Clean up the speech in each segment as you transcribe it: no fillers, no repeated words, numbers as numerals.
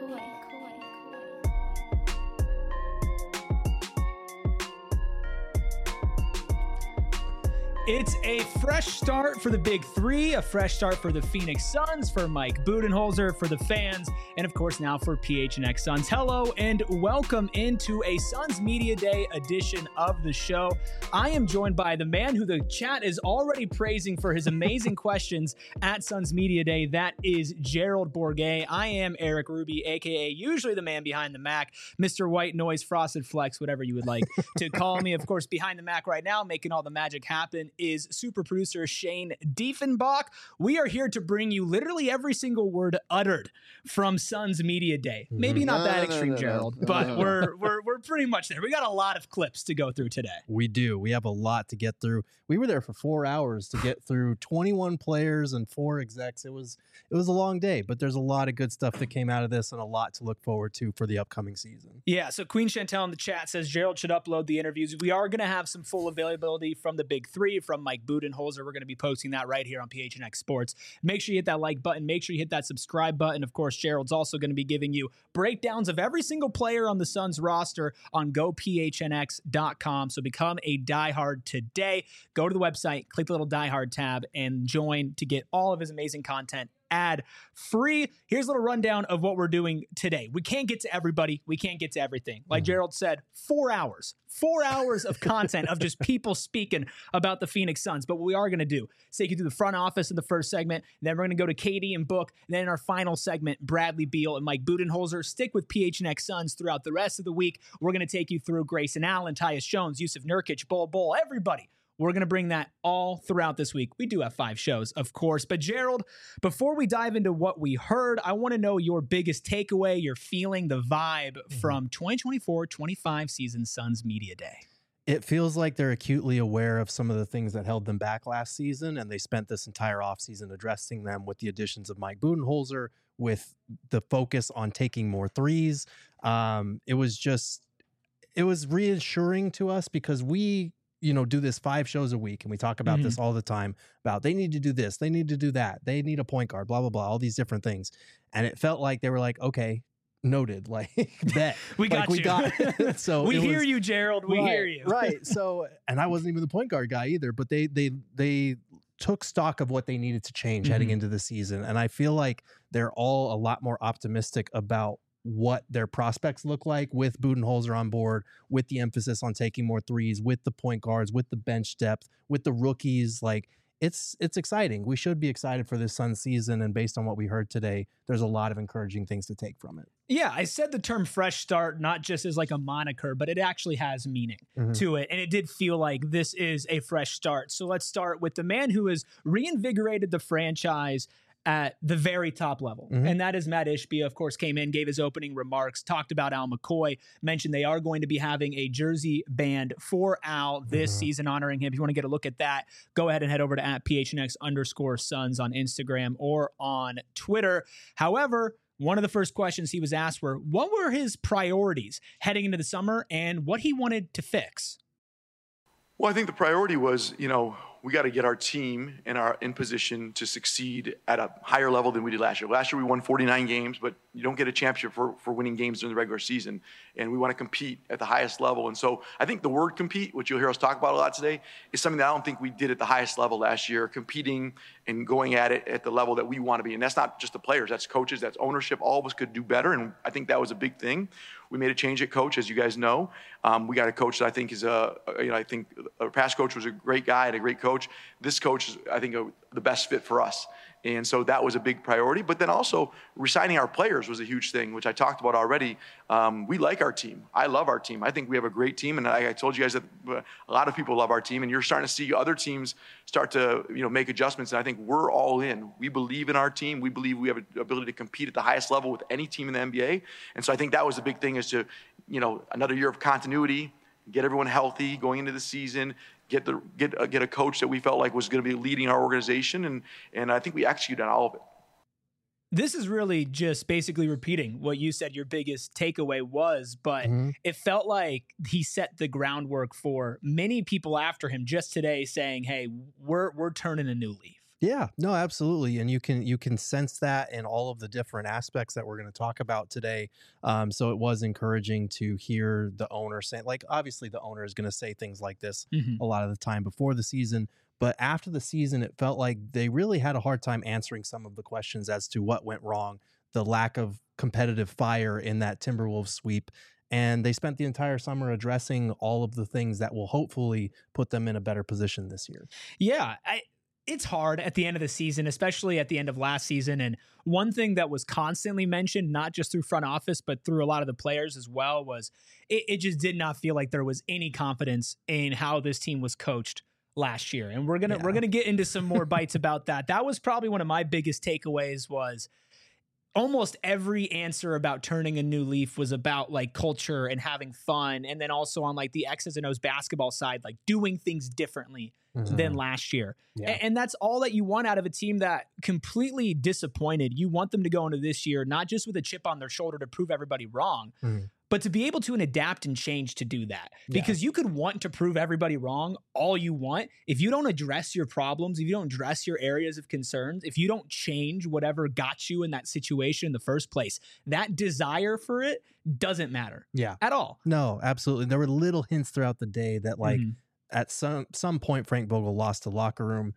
It's a fresh start for the Big Three, a fresh start for the Phoenix Suns, for Mike Budenholzer, for the fans, and of course now for PHNX Suns. Hello and welcome into a Suns Media Day edition of the show. I am joined by the man who the chat is already praising for his amazing questions at Suns Media Day. That is Gerald Bourguet. I am Eric Ruby, aka usually the man behind the Mac, Mr. White Noise, Frosted Flex, whatever you would like to call me. Of course, behind the Mac right now, making all the magic happen, is super producer Shane Diefenbach. We are here to bring you literally every single word uttered from Suns Media Day. Maybe not that extreme, Gerald, but we're pretty much there. We got a lot of clips to go through today. We do. We have a lot to get through. We were there for 4 hours to get through 21 players and 4 execs. It was a long day, but there's a lot of good stuff that came out of this and a lot to look forward to for the upcoming season. Yeah, so Queen Chantel in the chat says Gerald should upload the interviews. We are going to have some full availability from the Big Three, from Mike Budenholzer. We're going to be posting that right here on PHNX Sports. Make sure you hit that like button. Make sure you hit that subscribe button. Of course, Gerald's also going to be giving you breakdowns of every single player on the Suns roster on gophnx.com. So become a diehard today. Go to the website, click the little diehard tab, and join to get all of his amazing content ad free. Here's a little rundown of what we're doing today. We can't get to everybody. We can't get to everything. Like Gerald said, 4 hours of content of just people speaking about the Phoenix Suns. But what we are going to do is take you through the front office in the first segment. Then we're going to go to Katie and Book. And then in our final segment, Bradley Beal and Mike Budenholzer. Stick with PHNX Suns throughout the rest of the week. We're going to take you through Grayson Allen, Tyus Jones, Yusuf Nurkic, Bol, everybody. We're going to bring that all throughout this week. We do have 5 shows, of course. But Gerald, before we dive into what we heard, I want to know your biggest takeaway, your feeling, the vibe from 2024-25 season Suns Media Day. It feels like they're acutely aware of some of the things that held them back last season, and they spent this entire offseason addressing them with the additions of Mike Budenholzer, with the focus on taking more threes. It was reassuring to us because we do this 5 shows a week, and we talk about this all the time about they need to do this, they need to do that, they need a point guard, blah, blah, blah, all these different things. And it felt like they were like, okay, noted, like bet. We got you. So we hear you, Gerald. We hear you. Right. So, and I wasn't even the point guard guy either, but they took stock of what they needed to change heading into the season. And I feel like they're all a lot more optimistic about what their prospects look like with Budenholzer on board, with the emphasis on taking more threes, with the point guards, with the bench depth, with the rookies. Like it's exciting. We should be excited for this Suns season. And based on what we heard today, there's a lot of encouraging things to take from it. Yeah, I said the term fresh start, not just as like a moniker, but it actually has meaning to it. And it did feel like this is a fresh start. So let's start with the man who has reinvigorated the franchise at the very top level. And that is Matt Ishbia. Of course, came in, gave his opening remarks, talked about Al McCoy, mentioned they are going to be having a jersey band for Al this season, honoring him. If you want to get a look at that, go ahead and head over to @PHNX_Suns on Instagram or on Twitter. However, one of the first questions he was asked were, what were his priorities heading into the summer and what he wanted to fix? Well, I think the priority was, we got to get our team in position to succeed at a higher level than we did last year. Last year we won 49 games, but you don't get a championship for winning games during the regular season. And we want to compete at the highest level. And so I think the word compete, which you'll hear us talk about a lot today, is something that I don't think we did at the highest level last year, competing and going at it at the level that we want to be. And that's not just the players, that's coaches, that's ownership. All of us could do better. And I think that was a big thing. We made a change at coach, as you guys know. We got a coach that I think is I think our past coach was a great guy and a great coach. This coach is, I think, the best fit for us. And so that was a big priority. But then also resigning our players was a huge thing, which I talked about already. We like our team. I love our team. I think we have a great team. And I told you guys that a lot of people love our team. And you're starting to see other teams start to make adjustments. And I think we're all in. We believe in our team. We believe we have an ability to compete at the highest level with any team in the NBA. And so I think that was the big thing, is to, another year of continuity, get everyone healthy going into the season, get a coach that we felt like was going to be leading our organization, and I think we executed on all of it. This is really just basically repeating what you said your biggest takeaway was, but it felt like he set the groundwork for many people after him just today saying, hey, we're turning a new leaf. Yeah, no, absolutely, and you can sense that in all of the different aspects that we're going to talk about today. So it was encouraging to hear the owner say, like, obviously the owner is going to say things like this Mhm. a lot of the time before the season, but after the season, it felt like they really had a hard time answering some of the questions as to what went wrong, the lack of competitive fire in that Timberwolves sweep. And they spent the entire summer addressing all of the things that will hopefully put them in a better position this year. Yeah, it's hard at the end of the season, especially at the end of last season. And one thing that was constantly mentioned, not just through front office, but through a lot of the players as well, was it just did not feel like there was any confidence in how this team was coached last year. And we're gonna get into some more bites about that. That was probably one of my biggest takeaways was almost every answer about turning a new leaf was about like culture and having fun. And then also on like the X's and O's basketball side, like doing things differently than last year. Yeah. And that's all that you want out of a team that completely disappointed. You want them to go into this year, not just with a chip on their shoulder to prove everybody wrong, but to be able to adapt and change to do that. Because you could want to prove everybody wrong all you want. If you don't address your problems, if you don't address your areas of concerns, if you don't change whatever got you in that situation in the first place, that desire for it doesn't matter. Yeah. At all. No, absolutely. There were little hints throughout the day that like at some point Frank Vogel lost the locker room,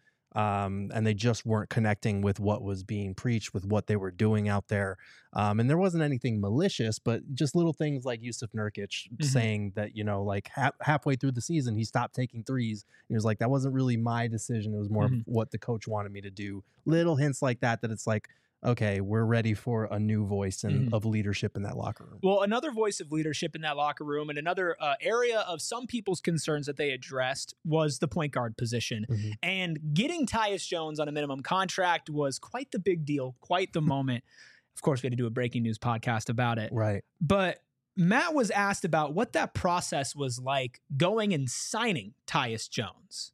and they just weren't connecting with what was being preached, with what they were doing out there. And there wasn't anything malicious, but just little things like Yusuf Nurkic saying that, you know, like halfway through the season, he stopped taking threes. He was like, that wasn't really my decision. It was more of what the coach wanted me to do. Little hints like that it's like, okay, we're ready for a new voice of leadership in that locker room. Well, another voice of leadership in that locker room and another area of some people's concerns that they addressed was the point guard position. And getting Tyus Jones on a minimum contract was quite the big deal, quite the moment. Of course, we had to do a breaking news podcast about it. Right. But Matt was asked about what that process was like going and signing Tyus Jones.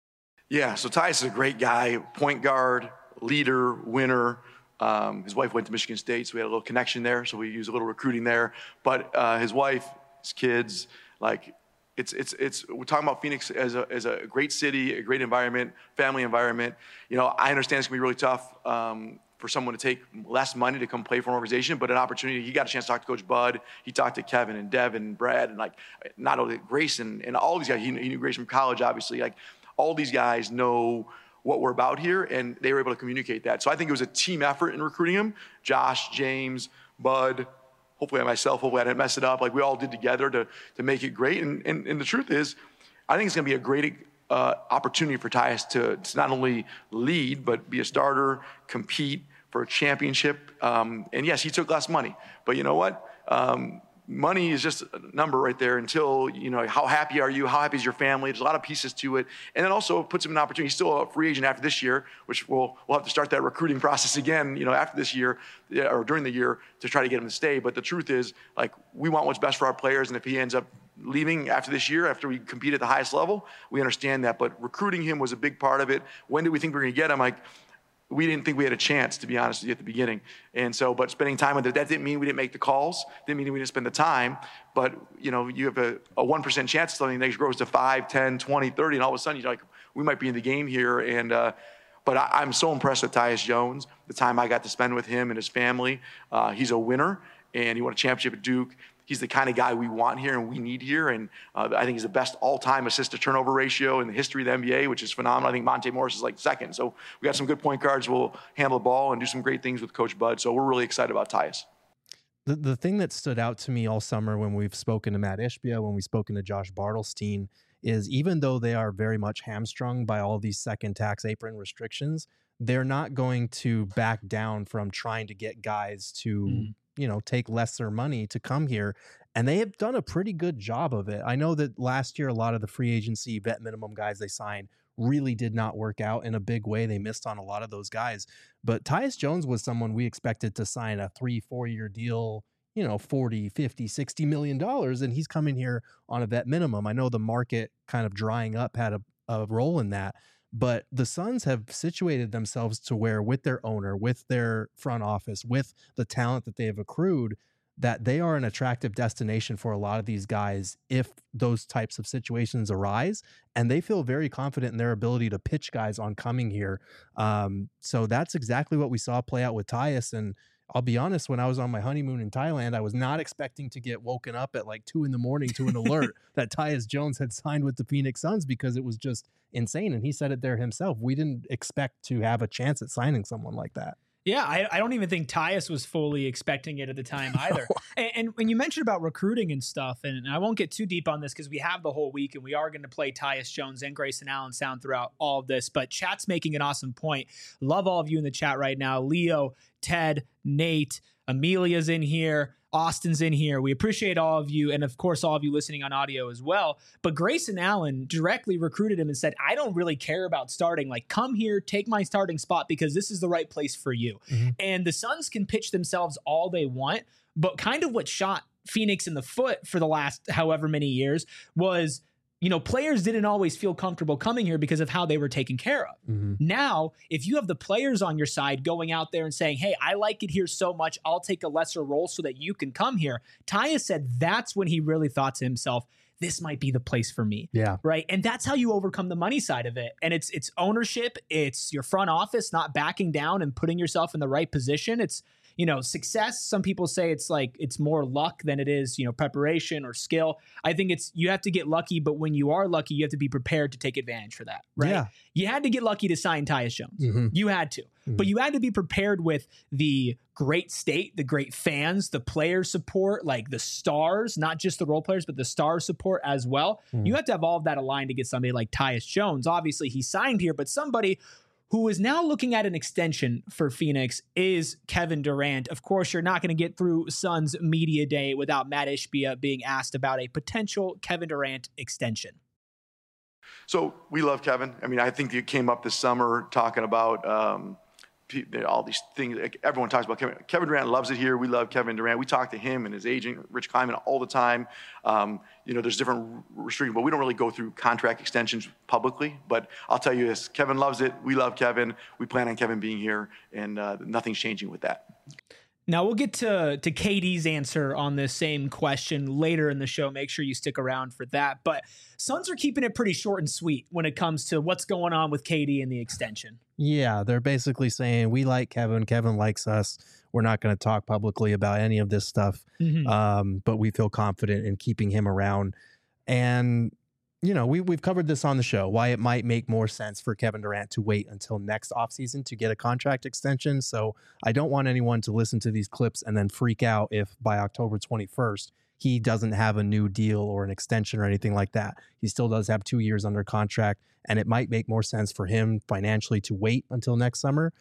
Yeah, so Tyus is a great guy, point guard, leader, winner. His wife went to Michigan State, so we had a little connection there. So we used a little recruiting there. But his wife, his kids, like it's we're talking about Phoenix as a great city, a great environment, family environment. You know, I understand it's gonna be really tough for someone to take less money to come play for an organization, but an opportunity. He got a chance to talk to Coach Bud. He talked to Kevin and Devin and Brad and like not only Grayson and all these guys. He knew Grayson from college, obviously. Like all these guys know what we're about here, and they were able to communicate that. So I think it was a team effort in recruiting him. Josh, James, Bud, hopefully myself, hopefully I didn't mess it up. Like we all did together to make it great. And the truth is, I think it's gonna be a great opportunity for Tyus to not only lead, but be a starter, compete for a championship. And yes, he took less money, but you know what? Money is just a number right there until, you know, how happy are you? How happy is your family? There's a lot of pieces to it. And then also it puts him in an opportunity. He's still a free agent after this year, which we'll have to start that recruiting process again, you know, after this year or during the year to try to get him to stay. But the truth is, like, we want what's best for our players. And if he ends up leaving after this year, after we compete at the highest level, we understand that. But recruiting him was a big part of it. When did we think we were going to get him? Like, we didn't think we had a chance, to be honest with you, at the beginning. And so, but spending time with it, that didn't mean we didn't make the calls, didn't mean we didn't spend the time. But, you know, you have a 1% chance something that grows to 5, 10, 20, 30, and all of a sudden you're like, we might be in the game here. And, but I'm so impressed with Tyus Jones, the time I got to spend with him and his family. He's a winner, and he won a championship at Duke. He's the kind of guy we want here and we need here. And I think he's the best all-time assist-to-turnover ratio in the history of the NBA, which is phenomenal. I think Monte Morris is like second. So we got some good point guards who will handle the ball and do some great things with Coach Bud. So we're really excited about Tyus. The thing that stood out to me all summer when we've spoken to Matt Ishbia, when we've spoken to Josh Bartelstein, is even though they are very much hamstrung by all these second tax apron restrictions, they're not going to back down from trying to get guys to you know, take lesser money to come here. And they have done a pretty good job of it. I know that last year, a lot of the free agency vet minimum guys they signed really did not work out in a big way. They missed on a lot of those guys. But Tyus Jones was someone we expected to sign a 3-4 year deal, you know, 40, 50, $60 million. And he's coming here on a vet minimum. I know the market kind of drying up had a role in that. But the Suns have situated themselves to where, with their owner, with their front office, with the talent that they have accrued, that they are an attractive destination for a lot of these guys if those types of situations arise, and they feel very confident in their ability to pitch guys on coming here. So that's exactly what we saw play out with Tyus. And I'll be honest, when I was on my honeymoon in Thailand, I was not expecting to get woken up at like 2 a.m. to an alert that Tyus Jones had signed with the Phoenix Suns, because it was just insane. And he said it there himself. We didn't expect to have a chance at signing someone like that. Yeah, I don't even think Tyus was fully expecting it at the time either. And when you mentioned about recruiting and stuff, and I won't get too deep on this because we have the whole week and we are going to play Tyus Jones and Grayson Allen sound throughout all of this, but chat's making an awesome point. Love all of you in the chat right now. Leo, Ted, Nate, Amelia's in here. Austin's in here. We appreciate all of you. And of course, all of you listening on audio as well. But Grayson Allen directly recruited him and said, I don't really care about starting. Like, come here, take my starting spot because this is the right place for you. Mm-hmm. And the Suns can pitch themselves all they want. But kind of what shot Phoenix in the foot for the last however many years was, you know, players didn't always feel comfortable coming here because of how they were taken care of. Mm-hmm. Now, if you have the players on your side going out there and saying, hey, I like it here so much, I'll take a lesser role so that you can come here. Tyus said that's when he really thought to himself, this might be the place for me. Yeah. Right. And that's how you overcome the money side of it. And it's ownership. It's your front office not backing down and putting yourself in the right position. It's, you know, success. Some people say it's like, it's more luck than it is, you know, preparation or skill. I think you have to get lucky, but when you are lucky, you have to be prepared to take advantage for that. Right. Yeah. You had to get lucky to sign Tyus Jones. Mm-hmm. You had to, but you had to be prepared with the great state, the great fans, the player support, like the stars, not just the role players, but the star support as well. You have to have all of that aligned to get somebody like Tyus Jones. Obviously he signed here, but somebody who is now looking at an extension for Phoenix is Kevin Durant. Of course, you're not going to get through Suns Media Day without Matt Ishbia being asked about a potential Kevin Durant extension. So we love Kevin. I mean, I think it came up this summer talking about all these things. Like, everyone talks about Kevin. Kevin Durant loves it here. We love Kevin Durant. We talk to him and his agent, Rich Kleiman, all the time. You know, there's different restrictions, but we don't really go through contract extensions publicly. But I'll tell you this, Kevin loves it. We love Kevin. We plan on Kevin being here, and nothing's changing with that. Now we'll get to KD's answer on this same question later in the show. Make sure you stick around for that. But Suns are keeping it pretty short and sweet when it comes to what's going on with KD and the extension. Yeah, they're basically saying we like Kevin. Kevin likes us. We're not going to talk publicly about any of this stuff, but we feel confident in keeping him around. And you know, we've covered this on the show, why it might make more sense for Kevin Durant to wait until next offseason to get a contract extension. So I don't want anyone to listen to these clips and then freak out if by October 21st, he doesn't have a new deal or an extension or anything like that. He still does have 2 years under contract, and it might make more sense for him financially to wait until next summer.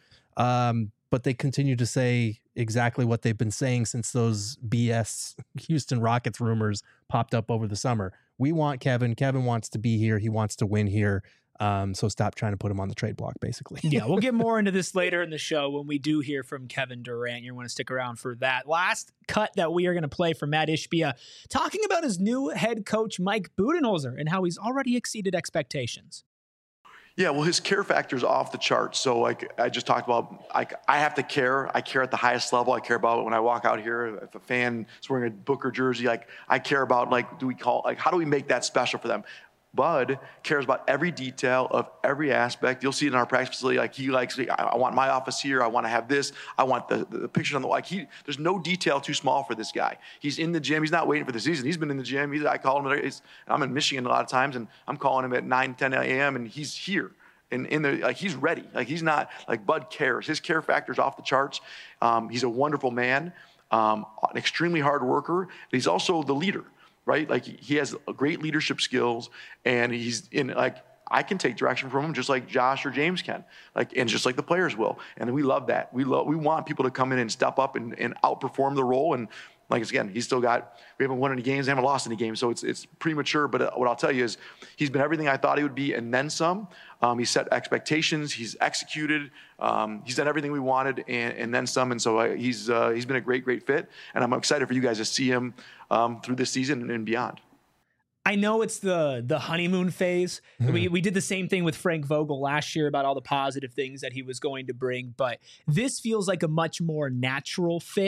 But they continue to say exactly what they've been saying since those BS Houston Rockets rumors popped up over the summer. We want Kevin. Kevin wants to be here. He wants to win here. So stop trying to put him on the trade block, basically. Yeah, we'll get more into this later in the show when we do hear from Kevin Durant. You're going to stick around for that. Last cut that we are going to play from Matt Ishbia, talking about his new head coach, Mike Budenholzer, and how he's already exceeded expectations. Yeah, well, his care factor is off the charts. So, like I just talked about, I have to care. I care at the highest level. I care about when I walk out here. If a fan is wearing a Booker jersey, like I care about, like, how do we make that special for them? Bud cares about every detail of every aspect. You'll see it in our practice facility. Like, he likes, I want my office here. I want to have this. I want the pictures on the wall. Like, there's no detail too small for this guy. He's in the gym. He's not waiting for the season. He's been in the gym. I call him. I'm in Michigan a lot of times, and I'm calling him at 9, 10 a.m., and he's here. And he's ready. Like, he's not, like, Bud cares. His care factor's off the charts. He's a wonderful man, an extremely hard worker. But he's also the leader. Right? Like, he has great leadership skills, and he's in, like, I can take direction from him just like Josh or James can, like, and just like the players will. And we love that. We want people to come in and step up and outperform the role. And like, again, we haven't won any games, haven't lost any games. So it's premature. But what I'll tell you is he's been everything I thought he would be, and then some. He set expectations. He's executed. He's done everything we wanted, and then some. And so he's been a great, great fit. And I'm excited for you guys to see him through this season and beyond. I know it's the honeymoon phase. We did the same thing with Frank Vogel last year about all the positive things that he was going to bring, but this feels like a much more natural fit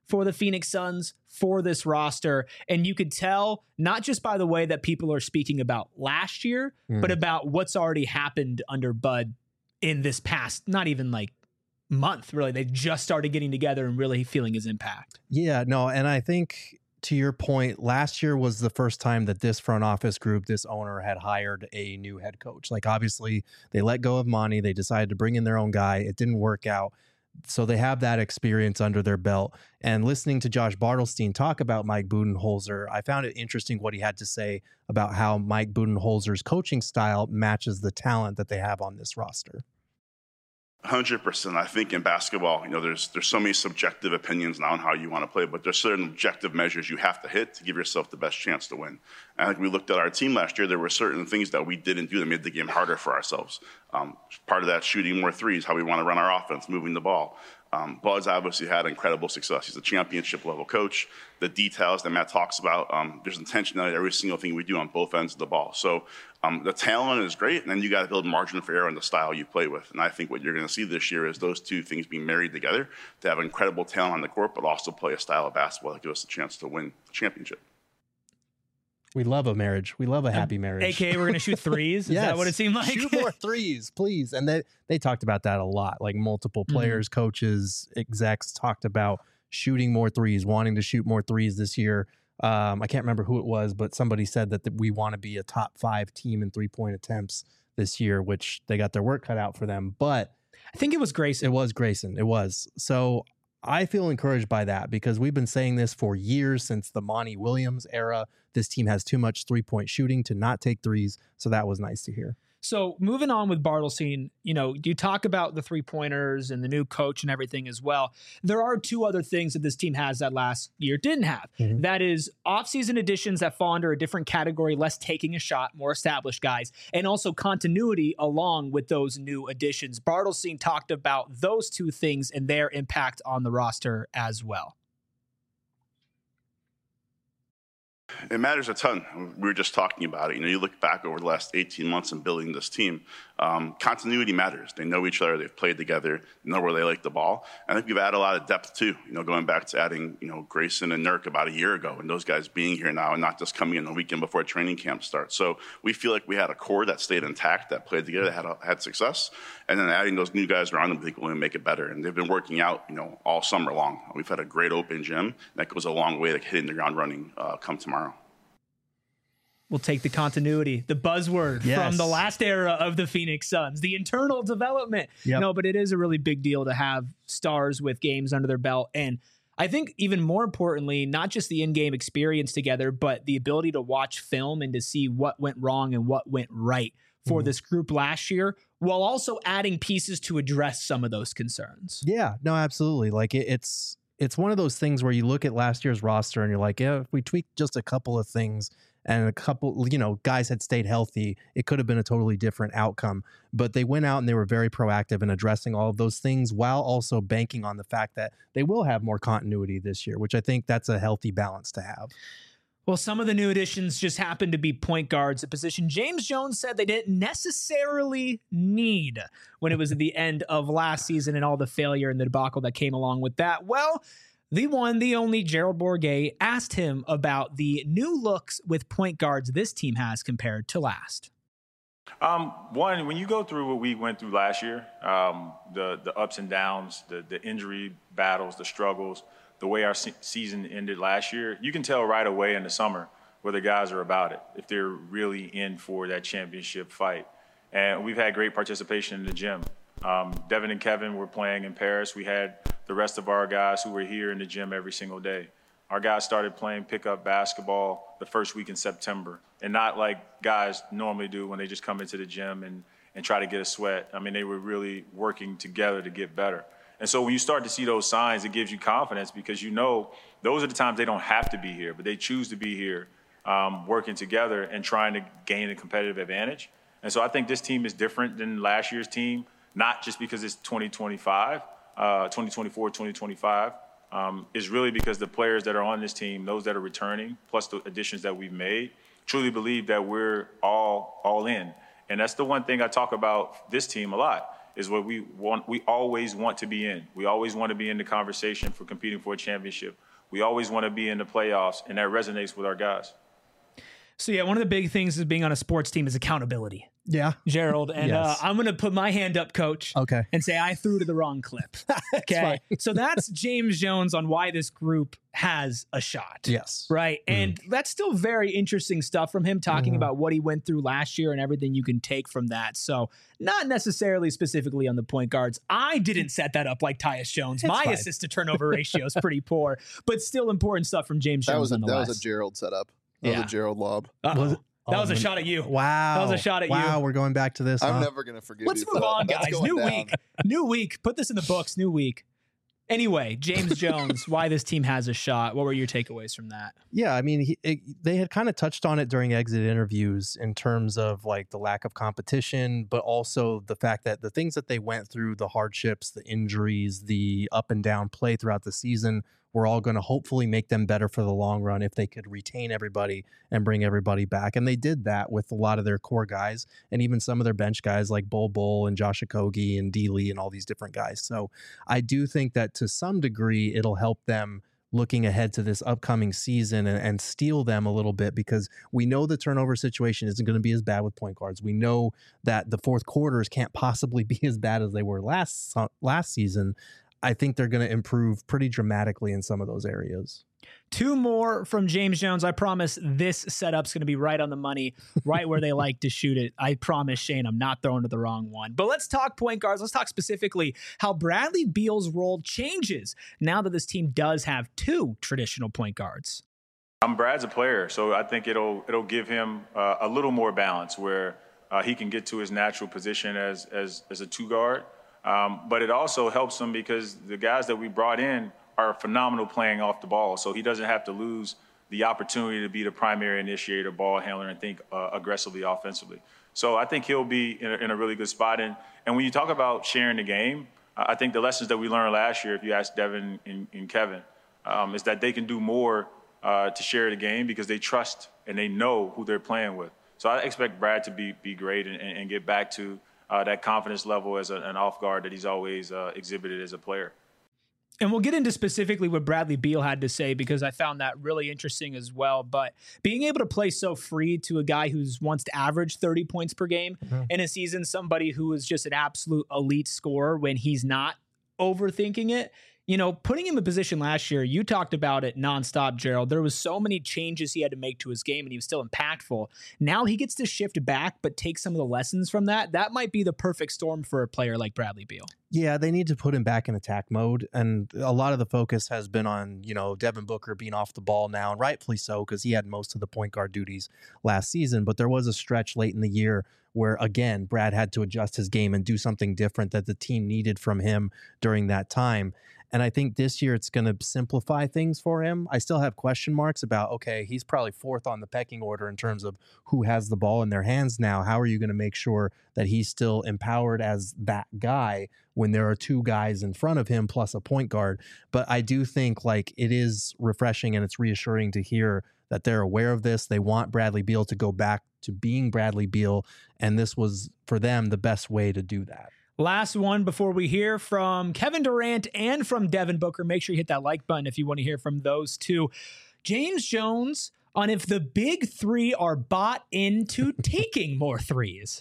for the Phoenix Suns for this roster. And you could tell not just by the way that people are speaking about last year, but about what's already happened under Bud in this past, not even like month, really. They've just started getting together and really feeling his impact. Yeah, no, and I think to your point, last year was the first time that this front office group, this owner had hired a new head coach. Like obviously they let go of Monty. They decided to bring in their own guy. It didn't work out. So they have that experience under their belt. And listening to Josh Bartelstein talk about Mike Budenholzer, I found it interesting what he had to say about how Mike Budenholzer's coaching style matches the talent that they have on this roster. 100%. I think in basketball, there's so many subjective opinions now on how you want to play, but there's certain objective measures you have to hit to give yourself the best chance to win. And I think we looked at our team last year. There were certain things that we didn't do that made the game harder for ourselves. Part of that, shooting more threes, how we want to run our offense, moving the ball. Bud's obviously had incredible success. He's a championship level coach. The details that Matt talks about, there's intentionality in every single thing we do on both ends of the ball. So the talent is great, and then you got to build margin for error in the style you play with. And I think what you're going to see this year is those two things being married together to have incredible talent on the court, but also play a style of basketball that gives us a chance to win the championship. We love a marriage. We love a happy marriage. AKA we're going to shoot threes? Is that what it seemed like? Shoot more threes, please. And they talked about that a lot. Like multiple players, coaches, execs talked about shooting more threes, wanting to shoot more threes this year. I can't remember who it was, but somebody said that we want to be a top 5 team in 3-point attempts this year, which they got their work cut out for them. But I think it was Grayson. It was Grayson. It was. So I feel encouraged by that because we've been saying this for years since the Monty Williams era. This team has too much 3-point shooting to not take threes. So that was nice to hear. So moving on with Bartelstein, you talk about the 3-pointers and the new coach and everything as well. There are 2 other things that this team has that last year didn't have. That is offseason additions that fall under a different category, less taking a shot, more established guys, and also continuity along with those new additions. Bartelstein talked about those 2 things and their impact on the roster as well. It matters a ton. We were just talking about it. You look back over the last 18 months in building this team, continuity matters. They know each other. They've played together, know where they like the ball. I think we've added a lot of depth too, going back to adding, Grayson and Nurk about a year ago and those guys being here now and not just coming in the weekend before training camp starts. So we feel like we had a core that stayed intact, that played together, that had success. And then adding those new guys around them, I think will make it better. And they've been working out, all summer long. We've had a great open gym. That goes a long way to hitting the ground running come tomorrow. We'll take the continuity, the buzzword from the last era of the Phoenix Suns, the internal development. No, but it is a really big deal to have stars with games under their belt. And I think even more importantly, not just the in-game experience together, but the ability to watch film and to see what went wrong and what went right for this group last year, while also adding pieces to address some of those concerns. Yeah, no, absolutely. Like it's one of those things where you look at last year's roster and you're like, yeah, if we tweak just a couple of things and a couple, guys had stayed healthy, it could have been a totally different outcome. But they went out and they were very proactive in addressing all of those things while also banking on the fact that they will have more continuity this year, which I think that's a healthy balance to have. Well, some of the new additions just happened to be point guards, a position James Jones said they didn't necessarily need when it was at the end of last season and all the failure and the debacle that came along with that. Well, the one, the only Gerald Bourguet asked him about the new looks with point guards this team has compared to last. One, when you go through what we went through last year, the ups and downs, the injury battles, the struggles, the way our season ended last year, you can tell right away in the summer where the guys are about it, if they're really in for that championship fight. And we've had great participation in the gym. Devin and Kevin were playing in Paris. We had the rest of our guys who were here in the gym every single day. Our guys started playing pickup basketball the first week in September, and not like guys normally do when they just come into the gym and try to get a sweat. I mean, they were really working together to get better. And so when you start to see those signs, it gives you confidence because those are the times they don't have to be here, but they choose to be here working together and trying to gain a competitive advantage. And so I think this team is different than last year's team, not just because it's 2024, 2025. Is really because the players that are on this team, those that are returning, plus the additions that we've made, truly believe that we're all in. And that's the one thing I talk about this team a lot, is what we want. We always want to be in. We always want to be in the conversation for competing for a championship. We always want to be in the playoffs, and that resonates with our guys. So, yeah, one of the big things is being on a sports team is accountability. Yeah. Gerald. And Yes. I'm going to put my hand up, Coach. Okay. And say I threw to the wrong clip. Okay. So that's James Jones on why this group has a shot. Yes. Right. And that's still very interesting stuff from him talking about what he went through last year and everything you can take from that. So not necessarily specifically on the point guards. I didn't set that up like Tyus Jones. My fine. assist to turnover ratio is pretty poor, but still important stuff from James Jones. That was a Gerald setup. That was a Gerald lob. That was a shot at you. Wow. That was a shot at you. Wow, we're going back to this. I'm huh? never going to forgive Let's you. move for on, that. That's guys. going New down. week. New week. Put this in the books. New week. Anyway, James Jones, why this team has a shot. What were your takeaways from that? Yeah, I mean, they had kind of touched on it during exit interviews in terms of like the lack of competition, but also the fact that the things that they went through, the hardships, the injuries, the up and down play throughout the season, were all going to hopefully make them better for the long run if they could retain everybody and bring everybody back. And they did that with a lot of their core guys and even some of their bench guys like Bull and Josh Okogie and D. Lee and all these different guys. So I do think that to some degree it'll help them looking ahead to this upcoming season and steal them a little bit, because we know the turnover situation isn't going to be as bad with point guards. We know that the fourth quarters can't possibly be as bad as they were last season. I think they're going to improve pretty dramatically in some of those areas. Two more from James Jones. I promise this setup's going to be right on the money, right where they like to shoot it. I promise, Shane, I'm not throwing to the wrong one. But let's talk point guards. Let's talk specifically how Bradley Beal's role changes now that this team does have two traditional point guards. Brad's a player, so I think it'll give him a little more balance where he can get to his natural position as a two guard. But it also helps him because the guys that we brought in are phenomenal playing off the ball. So he doesn't have to lose the opportunity to be the primary initiator, ball handler, and think aggressively offensively. So I think he'll be in a really good spot. And when you talk about sharing the game, I think the lessons that we learned last year, if you ask Devin and Kevin, is that they can do more to share the game because they trust and they know who they're playing with. So I expect Brad to be great and get back to that confidence level as an off guard that he's always exhibited as a player. And we'll get into specifically what Bradley Beal had to say because I found that really interesting as well. But being able to play so free to a guy who's once averaged 30 points per game in a season, somebody who is just an absolute elite scorer when he's not overthinking it. You know, putting him in position last year, you talked about it nonstop, Gerald. There was so many changes he had to make to his game, and he was still impactful. Now he gets to shift back, but take some of the lessons from that. That might be the perfect storm for a player like Bradley Beal. Yeah, they need to put him back in attack mode. And a lot of the focus has been on, Devin Booker being off the ball now, and rightfully so, because he had most of the point guard duties last season. But there was a stretch late in the year where, again, Brad had to adjust his game and do something different that the team needed from him during that time. And I think this year it's going to simplify things for him. I still have question marks about, okay, he's probably fourth on the pecking order in terms of who has the ball in their hands now. How are you going to make sure that he's still empowered as that guy when there are two guys in front of him plus a point guard? But I do think it is refreshing and it's reassuring to hear that they're aware of this. They want Bradley Beal to go back to being Bradley Beal. And this was, for them, the best way to do that. Last one before we hear from Kevin Durant and from Devin Booker. Make sure you hit that like button if you want to hear from those two. James Jones on if the big three are bought into taking more threes.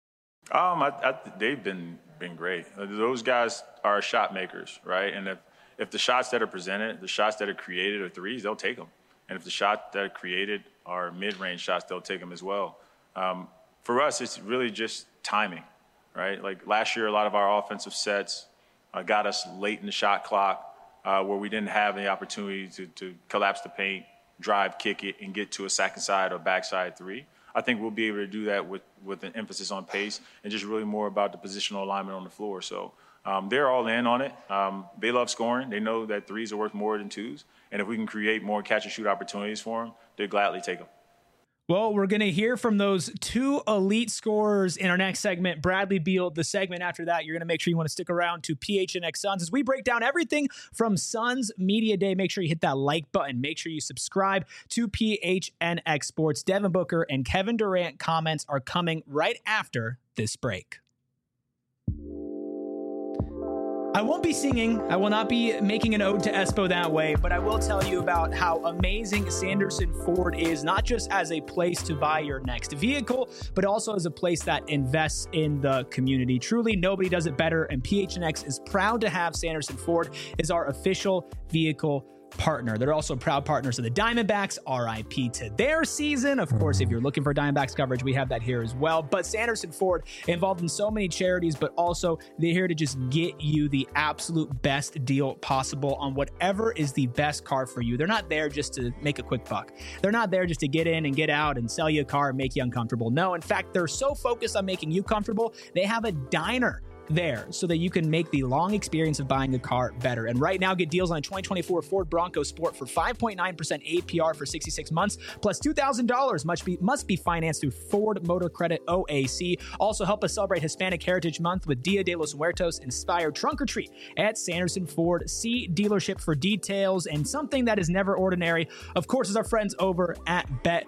They've been great. Those guys are shot makers, right? And if the shots that are presented, the shots that are created are threes, they'll take them. And if the shots that are created are mid-range shots, they'll take them as well. For us, it's really just timing. Right? Like last year, a lot of our offensive sets got us late in the shot clock where we didn't have the opportunity to collapse the paint, drive, kick it, and get to a second side or backside three. I think we'll be able to do that with an emphasis on pace and just really more about the positional alignment on the floor. So they're all in on it. They love scoring. They know that threes are worth more than twos. And if we can create more catch-and-shoot opportunities for them, they'll gladly take them. Well, we're going to hear from those two elite scorers in our next segment, Bradley Beal. The segment after that, you're going to make sure you want to stick around to PHNX Suns as we break down everything from Suns Media Day. Make sure you hit that like button. Make sure you subscribe to PHNX Sports. Devin Booker and Kevin Durant comments are coming right after this break. I won't be singing. I will not be making an ode to Espo that way, but I will tell you about how amazing Sanderson Ford is, not just as a place to buy your next vehicle, but also as a place that invests in the community. Truly, nobody does it better, and PHNX is proud to have Sanderson Ford as our official vehicle partner. They're also proud partners of the Diamondbacks. RIP to their season. Of course, if you're looking for Diamondbacks coverage, we have that here as well. But Sanderson Ford involved in so many charities, but also they're here to just get you the absolute best deal possible on whatever is the best car for you. They're not there just to make a quick buck. They're not there just to get in and get out and sell you a car and make you uncomfortable. No, in fact, they're so focused on making you comfortable, they have a diner there so that you can make the long experience of buying a car better. And right now, get deals on a 2024 Ford Bronco Sport for 5.9% APR for 66 months, plus $2,000 must be financed through Ford Motor Credit OAC. Also, help us celebrate Hispanic Heritage Month with Dia de los Muertos inspired trunk or treat at Sanderson Ford. See dealership for details. And something that is never ordinary, of course, is our friends over at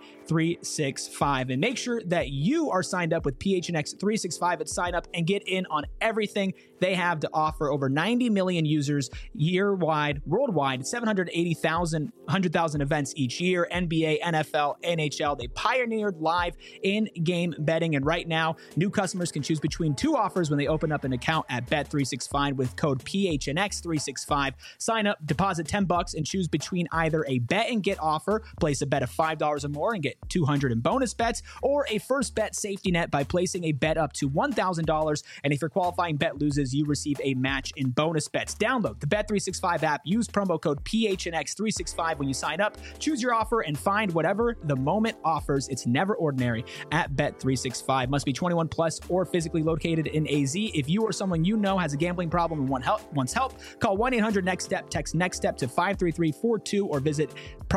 Bet365. And make sure that you are signed up with PHNX 365 at sign up and get in on everything they have to offer. Over 90 million users worldwide, 780,000, 100,000 events each year, NBA, NFL, NHL. They pioneered live in-game betting. And right now, new customers can choose between two offers when they open up an account at Bet365 with code PHNX365. Sign up, deposit $10 and choose between either a bet and get offer, place a bet of $5 or more and get $200 in bonus bets, or a first bet safety net by placing a bet up to $1,000. And if your qualifying bet loses, you receive a match in bonus bets. Download the Bet365 app. Use promo code PHNX365 when you sign up. Choose your offer and find whatever the moment offers. It's never ordinary at Bet365. Must be 21 plus or physically located in AZ. If you or someone you know has a gambling problem and wants help, call 1-800-NEXT-STEP. Text NEXT STEP to 53342 or visit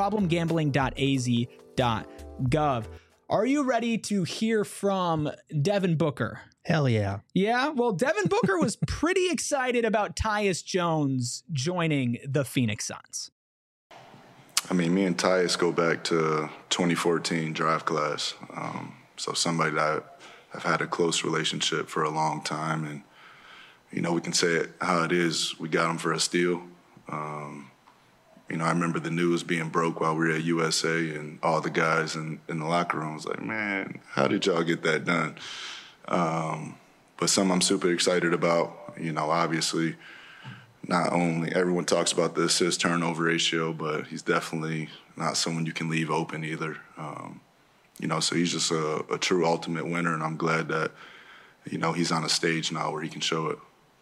problemgambling.az.gov. Are you ready to hear from Devin Booker? Hell yeah. Yeah? Well, Devin Booker was pretty excited about Tyus Jones joining the Phoenix Suns. I mean, me and Tyus go back to 2014 draft class. So somebody that I've had a close relationship for a long time. And, you know, we can say it how it is. We got him for a steal. You know, I remember the news being broke while we were at USA and all the guys in the locker room was like, man, how did y'all get that done? But something I'm super excited about, you know, obviously not only everyone talks about the assist turnover ratio, but he's definitely not someone you can leave open either. You know, so he's just a true ultimate winner, and I'm glad that, you know, he's on a stage now where he can show it.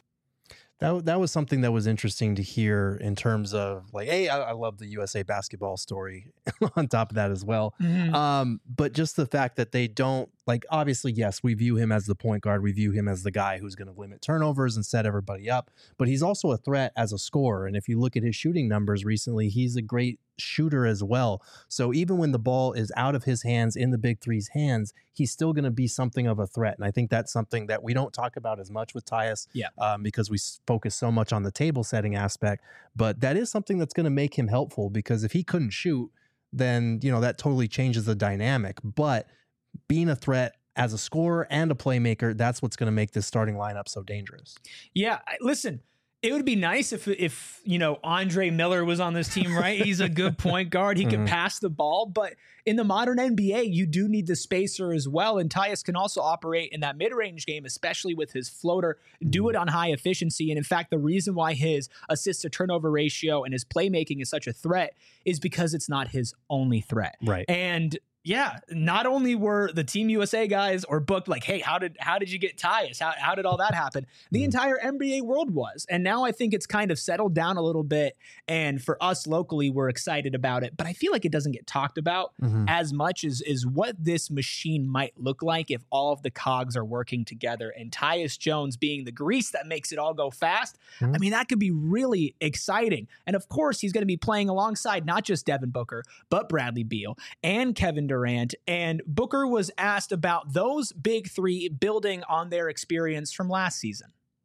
That was something that was interesting to hear in terms of like, hey, I love the USA basketball story on top of that as well. Mm-hmm. But just the fact that they don't, like, obviously, yes, we view him as the point guard. We view him as the guy who's going to limit turnovers and set everybody up. But he's also a threat as a scorer. And if you look at his shooting numbers recently, he's a great shooter as well. So even when the ball is out of his hands, in the Big Three's hands, he's still going to be something of a threat. And I think that's something that we don't talk about as much with Tyus because we focus so much on the table setting aspect. But that is something that's going to make him helpful, because if he couldn't shoot, then, you know, that totally changes the dynamic. But being a threat as a scorer and a playmaker, that's what's going to make this starting lineup so dangerous. Yeah, listen, it would be nice if you know, Andre Miller was on this team, right? He's a good point guard. He can pass the ball, but in the modern NBA, you do need the spacer as well. And Tyus can also operate in that mid-range game, especially with his floater, do it on high efficiency. And in fact, the reason why his assist to turnover ratio and his playmaking is such a threat is because it's not his only threat. Right. And yeah, not only were the Team USA guys or booked like, hey, how did you get Tyus? How did all that happen? The entire NBA world was. And now I think it's kind of settled down a little bit. And for us locally, we're excited about it. But I feel like it doesn't get talked about as much as what this machine might look like if all of the cogs are working together. And Tyus Jones being the grease that makes it all go fast, I mean, that could be really exciting. And of course, he's going to be playing alongside not just Devin Booker, but Bradley Beal and Kevin Durant. And Booker was asked about those big three building on their experience from last season.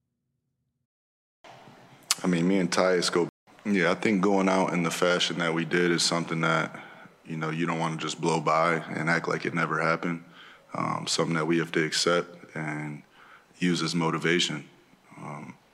I mean, me and Tyus go, yeah, I think going out in the fashion that we did is something that, you know, you don't want to just blow by and act like it never happened. Something that we have to accept and use as motivation.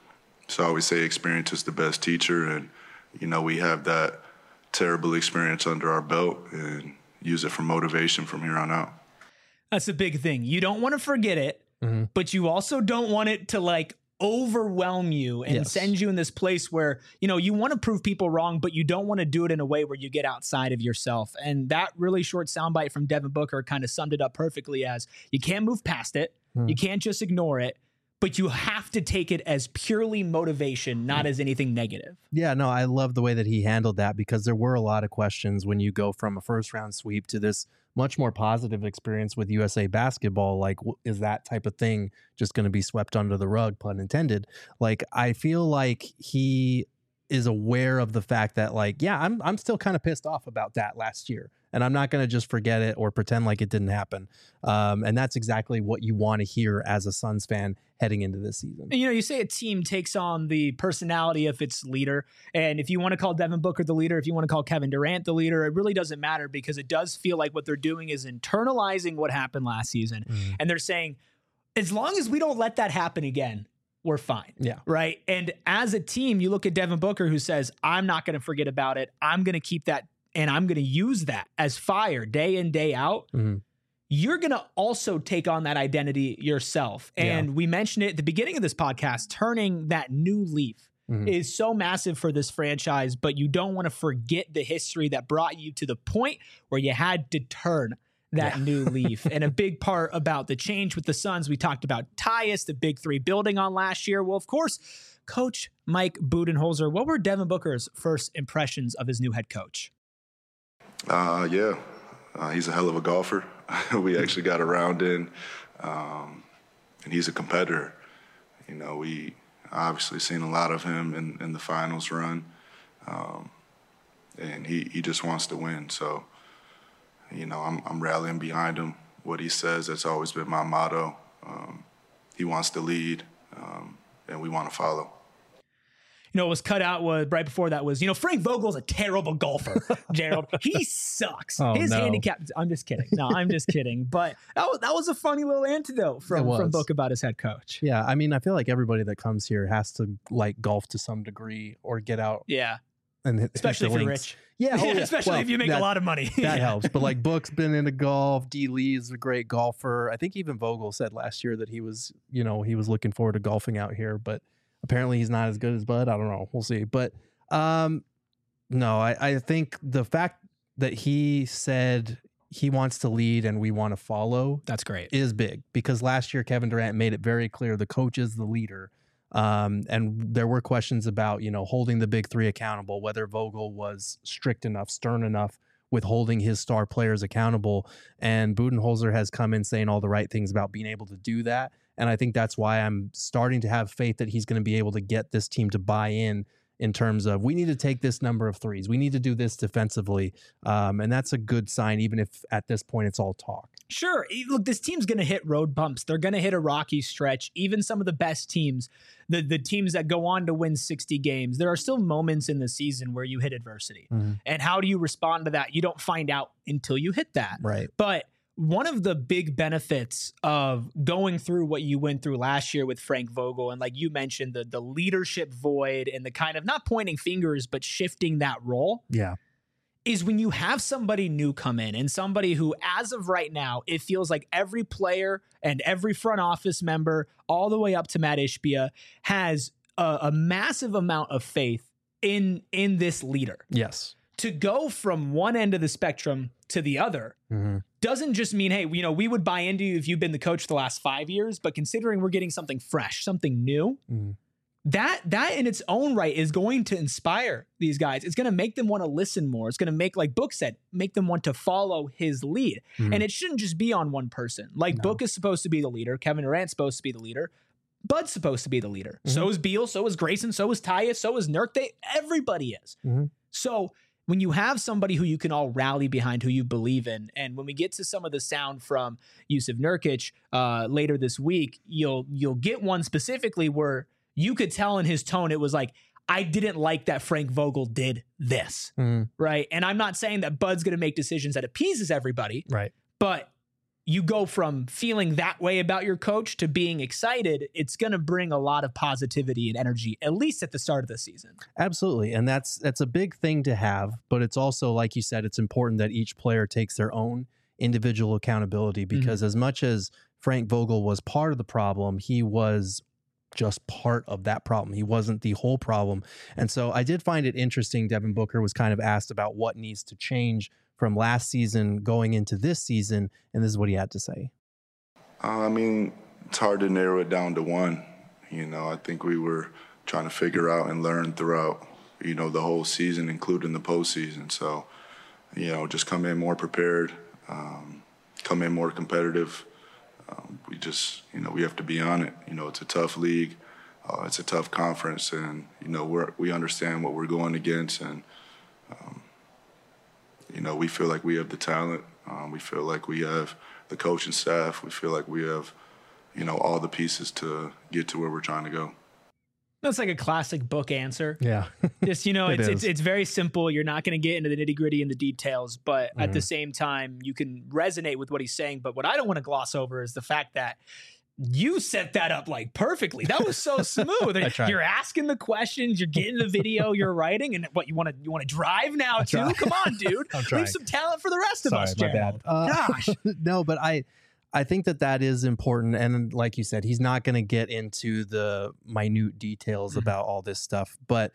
So I always say experience is the best teacher, and we have that terrible experience under our belt and use it for motivation from here on out. That's a big thing. You don't want to forget it, but you also don't want it to like overwhelm you and send you in this place where, you want to prove people wrong, but you don't want to do it in a way where you get outside of yourself. And that really short soundbite from Devin Booker kind of summed it up perfectly as you can't move past it. You can't just ignore it, but you have to take it as purely motivation, not as anything negative. Yeah, no, I love the way that he handled that, because there were a lot of questions when you go from a first round sweep to this much more positive experience with USA Basketball. Like, is that type of thing just going to be swept under the rug, pun intended? Like, I feel like he is aware of the fact that, like, yeah, I'm still kind of pissed off about that last year, and I'm not going to just forget it or pretend like it didn't happen. And that's exactly what you want to hear as a Suns fan heading into this season. You say a team takes on the personality of its leader. And if you want to call Devin Booker the leader, if you want to call Kevin Durant the leader, it really doesn't matter, because it does feel like what they're doing is internalizing what happened last season. And they're saying, as long as we don't let that happen again, we're fine. Yeah. Right. And as a team, you look at Devin Booker, who says, I'm not going to forget about it. I'm going to keep that, and I'm going to use that as fire day in, day out. You're going to also take on that identity yourself. And we mentioned it at the beginning of this podcast, turning that new leaf is so massive for this franchise, but you don't want to forget the history that brought you to the point where you had to turn that new leaf. And a big part about the change with the Suns, we talked about Tyus, the big three building on last year. Well, of course, Coach Mike Budenholzer, what were Devin Booker's first impressions of his new head coach? He's a hell of a golfer. We actually got around in, and he's a competitor. We obviously seen a lot of him in the finals run, and he just wants to win. So, I'm rallying behind him. What he says, that's always been my motto. He wants to lead, and we want to follow. What was cut out was right before that was, Frank Vogel's a terrible golfer, Gerald. He sucks. His handicap. I'm just kidding. No, I'm just kidding. But that was a funny little antidote from Book about his head coach. Yeah. I mean, I feel like everybody that comes here has to like golf to some degree or get out. Yeah. And especially if you're rich. Yeah. Especially if you make a lot of money. That helps. But like Book's been into golf. D. Lee's a great golfer. I think even Vogel said last year that he was looking forward to golfing out here, but apparently he's not as good as Bud. I don't know. We'll see. But no, I think the fact that he said he wants to lead and we want to follow, that's great, is big, because last year Kevin Durant made it very clear the coach is the leader. And there were questions about, holding the big three accountable, whether Vogel was strict enough, stern enough with holding his star players accountable. And Budenholzer has come in saying all the right things about being able to do that. And I think that's why I'm starting to have faith that he's going to be able to get this team to buy in terms of, we need to take this number of threes. We need to do this defensively. And that's a good sign, even if at this point it's all talk. Sure. Look, this team's going to hit road bumps. They're going to hit a rocky stretch. Even some of the best teams, the teams that go on to win 60 games, there are still moments in the season where you hit adversity. And how do you respond to that? You don't find out until you hit that. Right. But one of the big benefits of going through what you went through last year with Frank Vogel, and like you mentioned, the leadership void and the kind of not pointing fingers, but shifting that role. Yeah. Is when you have somebody new come in, and somebody who, as of right now, it feels like every player and every front office member, all the way up to Matt Ishbia, has a massive amount of faith in this leader. Yes. To go from one end of the spectrum to the other doesn't just mean, hey, we would buy into you if you've been the coach the last 5 years, but considering we're getting something fresh, something new, that in its own right is going to inspire these guys. It's going to make them want to listen more. It's going to make, like Book said, make them want to follow his lead. And it shouldn't just be on one person. Like Book is supposed to be the leader. Kevin Durant's supposed to be the leader. Bud's supposed to be the leader. So is Beal. So is Grayson. So is Tyus. So is Nurk. Everybody is. So when you have somebody who you can all rally behind, who you believe in, and when we get to some of the sound from Jusuf Nurkic later this week, you'll get one specifically where you could tell in his tone, it was like, I didn't like that Frank Vogel did this, right? And I'm not saying that Bud's going to make decisions that appeases everybody, right? But you go from feeling that way about your coach to being excited, it's going to bring a lot of positivity and energy, at least at the start of the season. Absolutely. And that's a big thing to have, but it's also, like you said, it's important that each player takes their own individual accountability, because as much as Frank Vogel was part of the problem, he was just part of that problem. He wasn't the whole problem. And so I did find it interesting. Devin Booker was kind of asked about what needs to change from last season going into this season, and this is what he had to say. I mean, it's hard to narrow it down to one. I think we were trying to figure out and learn throughout, the whole season, including the postseason. So, just come in more prepared, come in more competitive. We just, we have to be on it. It's a tough league. It's a tough conference, and, we understand what we're going against, and, we feel like we have the talent. We feel like we have the coaching staff. We feel like we have, all the pieces to get to where we're trying to go. That's like a classic book answer. Yeah. Just, it's very simple. You're not going to get into the nitty gritty and the details, but at the same time, you can resonate with what he's saying. But what I don't want to gloss over is the fact that you set that up like perfectly. That was so smooth. You're asking the questions, you're getting the video, you're writing, and what you want to drive now too? Come on, dude. Leave some talent for the rest of us, Gerald. Gosh. No, but I think that is important. And like you said, he's not going to get into the minute details about all this stuff, but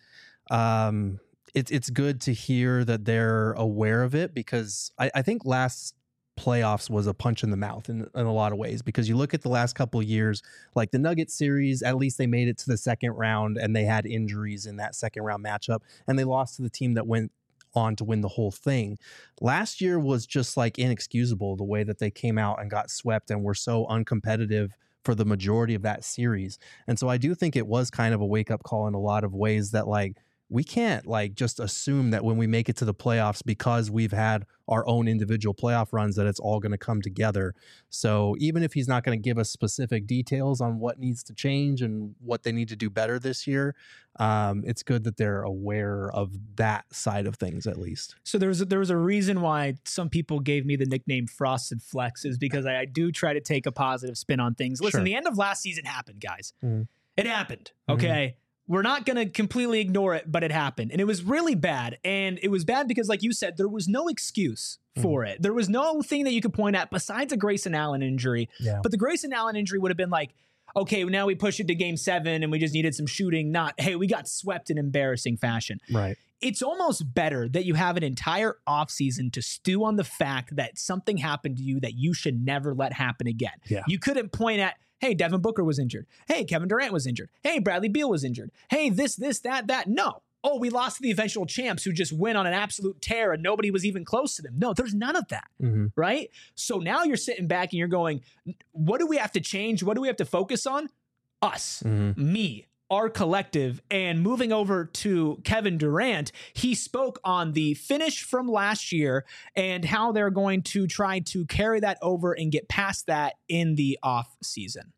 it's good to hear that they're aware of it, because I think last playoffs was a punch in the mouth in a lot of ways, because you look at the last couple of years, like the Nuggets series, at least they made it to the second round, and they had injuries in that second round matchup, and they lost to the team that went on to win the whole thing. Last year was just like inexcusable, the way that they came out and got swept and were so uncompetitive for the majority of that series. And so I do think it was kind of a wake up call in a lot of ways, that like we can't like just assume that when we make it to the playoffs, because we've had our own individual playoff runs, that it's all going to come together. So even if he's not going to give us specific details on what needs to change and what they need to do better this year, it's good that they're aware of that side of things at least. So there was a reason why some people gave me the nickname Frosted Flex, is because I do try to take a positive spin on things. Listen, the end of last season happened, guys. It happened. Okay. We're not going to completely ignore it, but it happened. And it was really bad. And it was bad because, like you said, there was no excuse for it. There was no thing that you could point at besides a Grayson Allen injury. Yeah. But the Grayson Allen injury would have been like, okay, now we push it to game 7 and we just needed some shooting. Not, hey, we got swept in embarrassing fashion. Right. It's almost better that you have an entire offseason to stew on the fact that something happened to you that you should never let happen again. Yeah. You couldn't point at, hey, Devin Booker was injured. Hey, Kevin Durant was injured. Hey, Bradley Beal was injured. Hey, this, that. No. Oh, we lost to the eventual champs who just went on an absolute tear and nobody was even close to them. No, there's none of that, right? So now you're sitting back and you're going, what do we have to change? What do we have to focus on? Us, me, our collective. And moving over to Kevin Durant, he spoke on the finish from last year and how they're going to try to carry that over and get past that in the off season.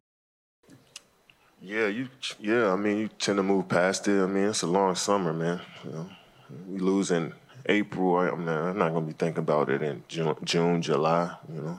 Yeah, I mean, you tend to move past it. I mean, it's a long summer, man. You lose in April. I'm not going to be thinking about it in June, July.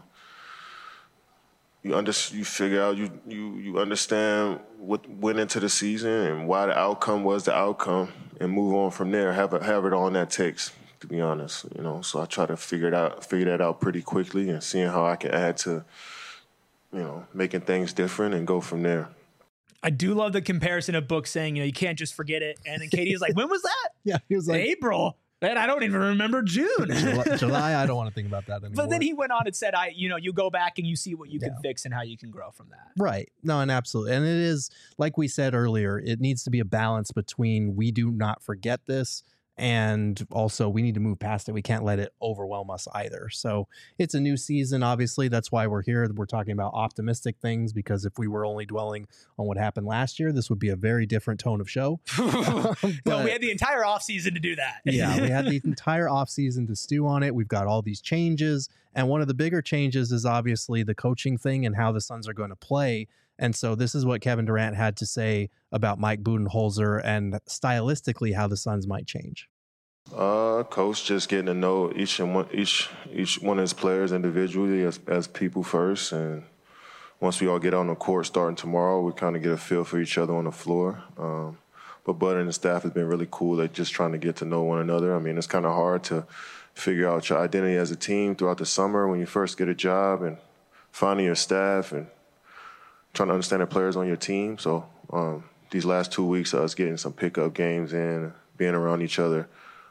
You figure out, you understand what went into the season and why the outcome was the outcome, and move on from there. Have it all that takes, to be honest. So I try to figure that out pretty quickly, and seeing how I can add to, making things different and go from there. I do love the comparison of Book saying, you can't just forget it. And then Katie is like, when was that? Yeah, he was like, April. Man, I don't even remember June. July, I don't want to think about that anymore. But then he went on and said, you go back and you see what you can fix and how you can grow from that. Right. No, and absolutely. And it is, like we said earlier, it needs to be a balance between we do not forget this, and also we need to move past it. We can't let it overwhelm us either. So it's a new season, obviously. That's why we're here. We're talking about optimistic things, because if we were only dwelling on what happened last year, this would be a very different tone of show. No, we had the entire offseason to do that. Yeah, we had the entire offseason to stew on it. We've got all these changes. And one of the bigger changes is obviously the coaching thing and how the Suns are going to play. And so this is what Kevin Durant had to say about Mike Budenholzer and stylistically how the Suns might change. Coach just getting to know each one of his players individually as people first, and once we all get on the court starting tomorrow, we kind of get a feel for each other on the floor. But Bud and the staff has been really cool at just trying to get to know one another. I mean, it's kind of hard to figure out your identity as a team throughout the summer when you first get a job and finding your staff and trying to understand the players on your team. So these last 2 weeks of us getting some pickup games in, being around each other,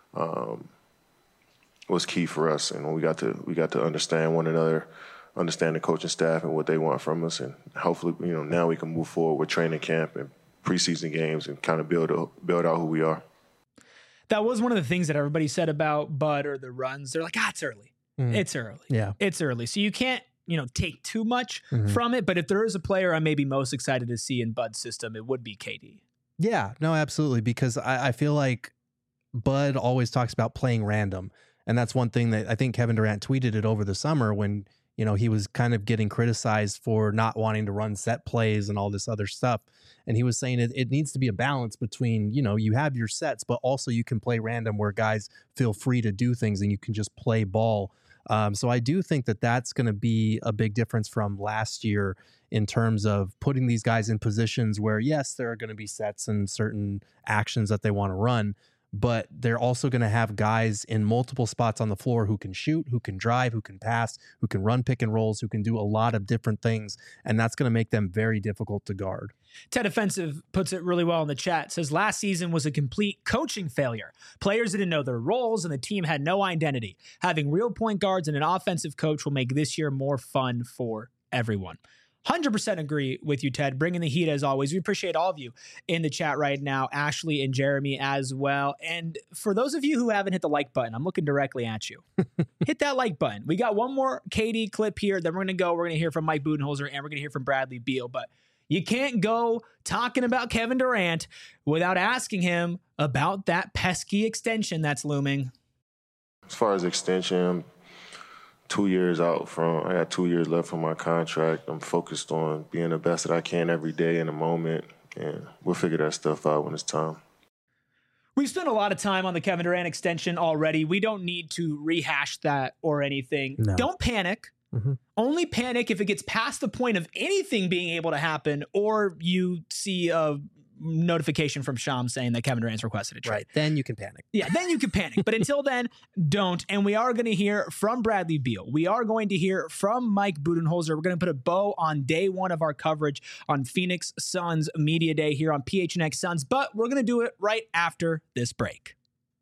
was key for us, and we got to understand one another, understand the coaching staff and what they want from us, and hopefully, now we can move forward with training camp and preseason games and kind of build out who we are. That was one of the things that everybody said about Bud or the runs. They're like, it's early. It's early. Yeah, it's early. So you can't, take too much from it. But if there is a player I'm maybe most excited to see in Bud's system, it would be KD. Yeah, no, absolutely. Because I feel like Bud always talks about playing random. And that's one thing that I think Kevin Durant tweeted it over the summer when, he was kind of getting criticized for not wanting to run set plays and all this other stuff. And he was saying it needs to be a balance between, you have your sets, but also you can play random where guys feel free to do things and you can just play ball. So I do think that that's going to be a big difference from last year in terms of putting these guys in positions where, yes, there are going to be sets and certain actions that they want to run, but they're also going to have guys in multiple spots on the floor who can shoot, who can drive, who can pass, who can run pick and rolls, who can do a lot of different things. And that's going to make them very difficult to guard. Ted Offensive puts it really well in the chat. Says last season was a complete coaching failure. Players didn't know their roles and the team had no identity. Having real point guards and an offensive coach will make this year more fun for everyone. 100% agree with you, Ted. Bringing the heat as always. We appreciate all of you in the chat right now, Ashley and Jeremy as well. And for those of you who haven't hit the like button, I'm looking directly at you. Hit that like button. We got one more KD clip here. Then we're going to hear from Mike Budenholzer and we're going to hear from Bradley Beal. But you can't go talking about Kevin Durant without asking him about that pesky extension that's looming. As far as extension, 2 years out I got 2 years left on my contract. I'm focused on being the best that I can every day in the moment, and we'll figure that stuff out when it's time. We've spent a lot of time on the Kevin Durant extension already. We don't need to rehash that or anything. No. Don't panic. Only panic if it gets past the point of anything being able to happen or you see a notification from Shams saying that Kevin Durant's requested a trade. Right, then you can panic. Yeah, then you can panic. But until then, don't. And we are going to hear from Bradley Beal. We are going to hear from Mike Budenholzer. We're going to put a bow on day one of our coverage on Phoenix Suns Media Day here on PHNX Suns. But we're going to do it right after this break.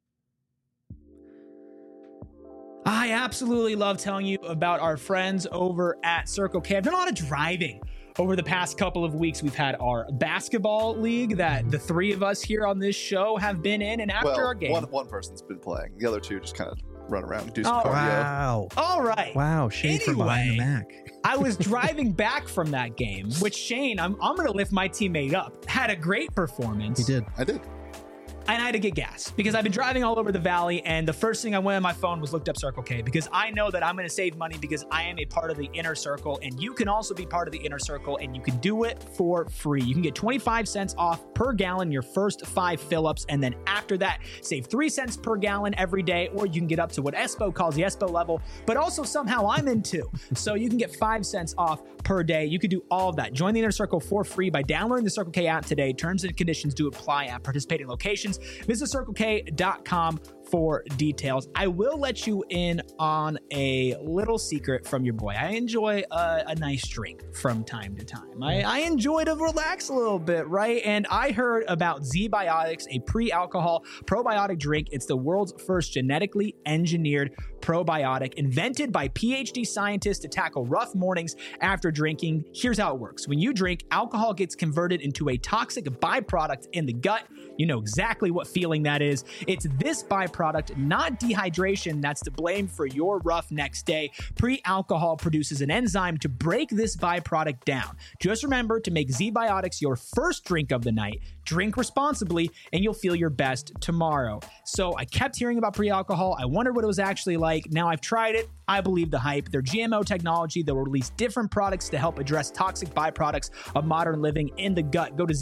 I absolutely love telling you about our friends over at Circle K. I've done a lot of driving over the past couple of weeks. We've had our basketball league that the three of us here on this show have been in. And after our game, one person's been playing. The other two just kind of run around and do some cardio. Wow. All right. Wow. Shane from behind the Mac. I was driving back from that game, which Shane, I'm going to lift my teammate up, had a great performance. He did. I did. And I had to get gas because I've been driving all over the valley. And the first thing I went on my phone was looked up Circle K because I know that I'm going to save money because I am a part of the inner circle. And you can also be part of the inner circle and you can do it for free. You can get 25 cents off per gallon your first 5 fill-ups. And then after that, save 3 cents per gallon every day. Or you can get up to what Espo calls the Espo level. But also somehow I'm in too. So you can get 5 cents off per day. You can do all of that. Join the inner circle for free by downloading the Circle K app today. Terms and conditions do apply at participating locations. Visit CircleK.com for details. I will let you in on a little secret from your boy. I enjoy a nice drink from time to time. I enjoy to relax a little bit, right? And I heard about ZBiotics, a pre-alcohol probiotic drink. It's the world's first genetically engineered probiotic invented by PhD scientists to tackle rough mornings after drinking. Here's how it works. When you drink, alcohol gets converted into a toxic byproduct in the gut. You know exactly what feeling that is. It's this byproduct, not dehydration, that's to blame for your rough next day. Pre-alcohol produces an enzyme to break this byproduct down. Just remember to make ZBiotics your first drink of the night. Drink responsibly, and you'll feel your best tomorrow. So I kept hearing about pre-alcohol. I wondered what it was actually like. Now I've tried it. I believe the hype. Their GMO technology that will release different products to help address toxic byproducts of modern living in the gut. Go to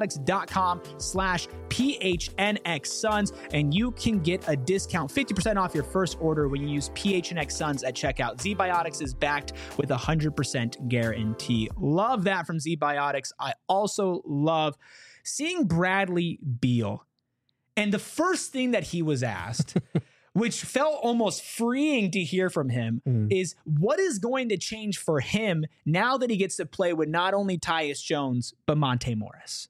zbiotics.com/PHNX Suns, and you can get a discount, 50% off your first order when you use PHNX Suns at checkout. ZBiotics is backed with a 100% guarantee. Love that from ZBiotics. I also love seeing Bradley Beal. And the first thing that he was asked, which felt almost freeing to hear from him, is what is going to change for him now that he gets to play with not only Tyus Jones, but Monte Morris?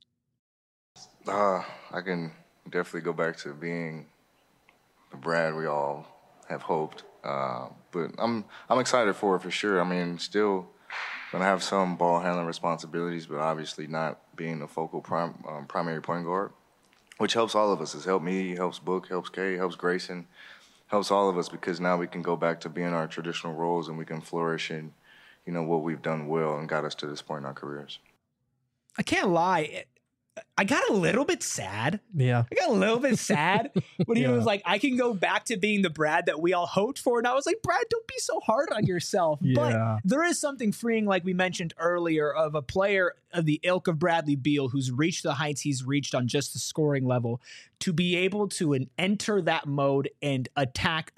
I can definitely go back to being the Brad we all have hoped. But I'm excited for it for sure. I mean, still going to have some ball handling responsibilities, but obviously not being the focal primary point guard, which helps all of us. It's helped me, helps Book, helps Kay, helps Grayson, helps all of us, because now we can go back to being our traditional roles and we can flourish in, you know, what we've done well and got us to this point in our careers. I can't lie. I got a little bit sad. Yeah. I got a little bit sad when he was like, I can go back to being the Brad that we all hoped for. And I was like, Brad, don't be so hard on yourself. But there is something freeing, like we mentioned earlier, of a player of the ilk of Bradley Beal, who's reached the heights he's reached on just the scoring level, to be able to enter that mode and attack.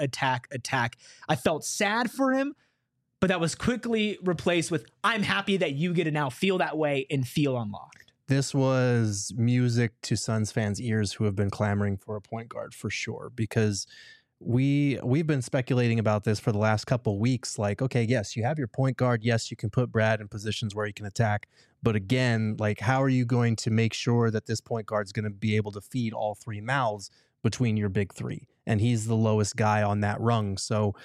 I felt sad for him, but that was quickly replaced with, I'm happy that you get to now feel that way and feel unlocked. This was music to Suns fans' ears who have been clamoring for a point guard for sure, because we've been speculating about this for the last couple weeks. Like, okay, yes, you have your point guard. Yes, you can put Brad in positions where he can attack. But again, like, how are you going to make sure that this point guard is going to be able to feed all three mouths between your big three? And he's the lowest guy on that rung. So,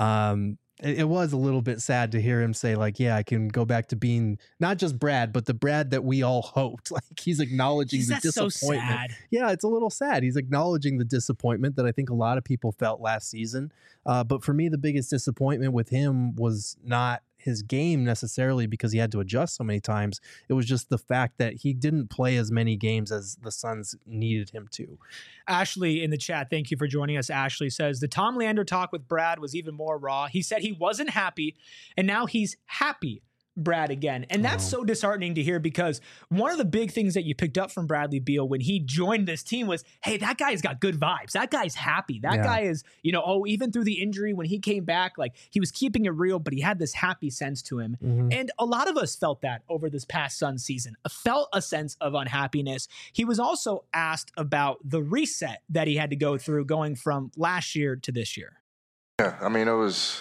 it was a little bit sad to hear him say, like, yeah, I can go back to being not just Brad, but the Brad that we all hoped. Like, he's acknowledging the disappointment. So sad. Yeah, it's a little sad. He's acknowledging the disappointment that I think a lot of people felt last season. But for me, the biggest disappointment with him was not his game necessarily because he had to adjust so many times. It was just the fact that he didn't play as many games as the Suns needed him to. Ashley in the chat, thank you for joining us. Ashley says, the Tom Leander talk with Brad was even more raw. He said he wasn't happy, and now he's happy Brad again. And that's so disheartening to hear, because one of the big things that you picked up from Bradley Beal when he joined this team was, hey, that guy's got good vibes. That guy's happy. That guy is, you know, even through the injury, when he came back, like, he was keeping it real, but he had this happy sense to him. And a lot of us felt that over this past Suns season, felt a sense of unhappiness. He was also asked about the reset that he had to go through going from last year to this year. Yeah, I mean,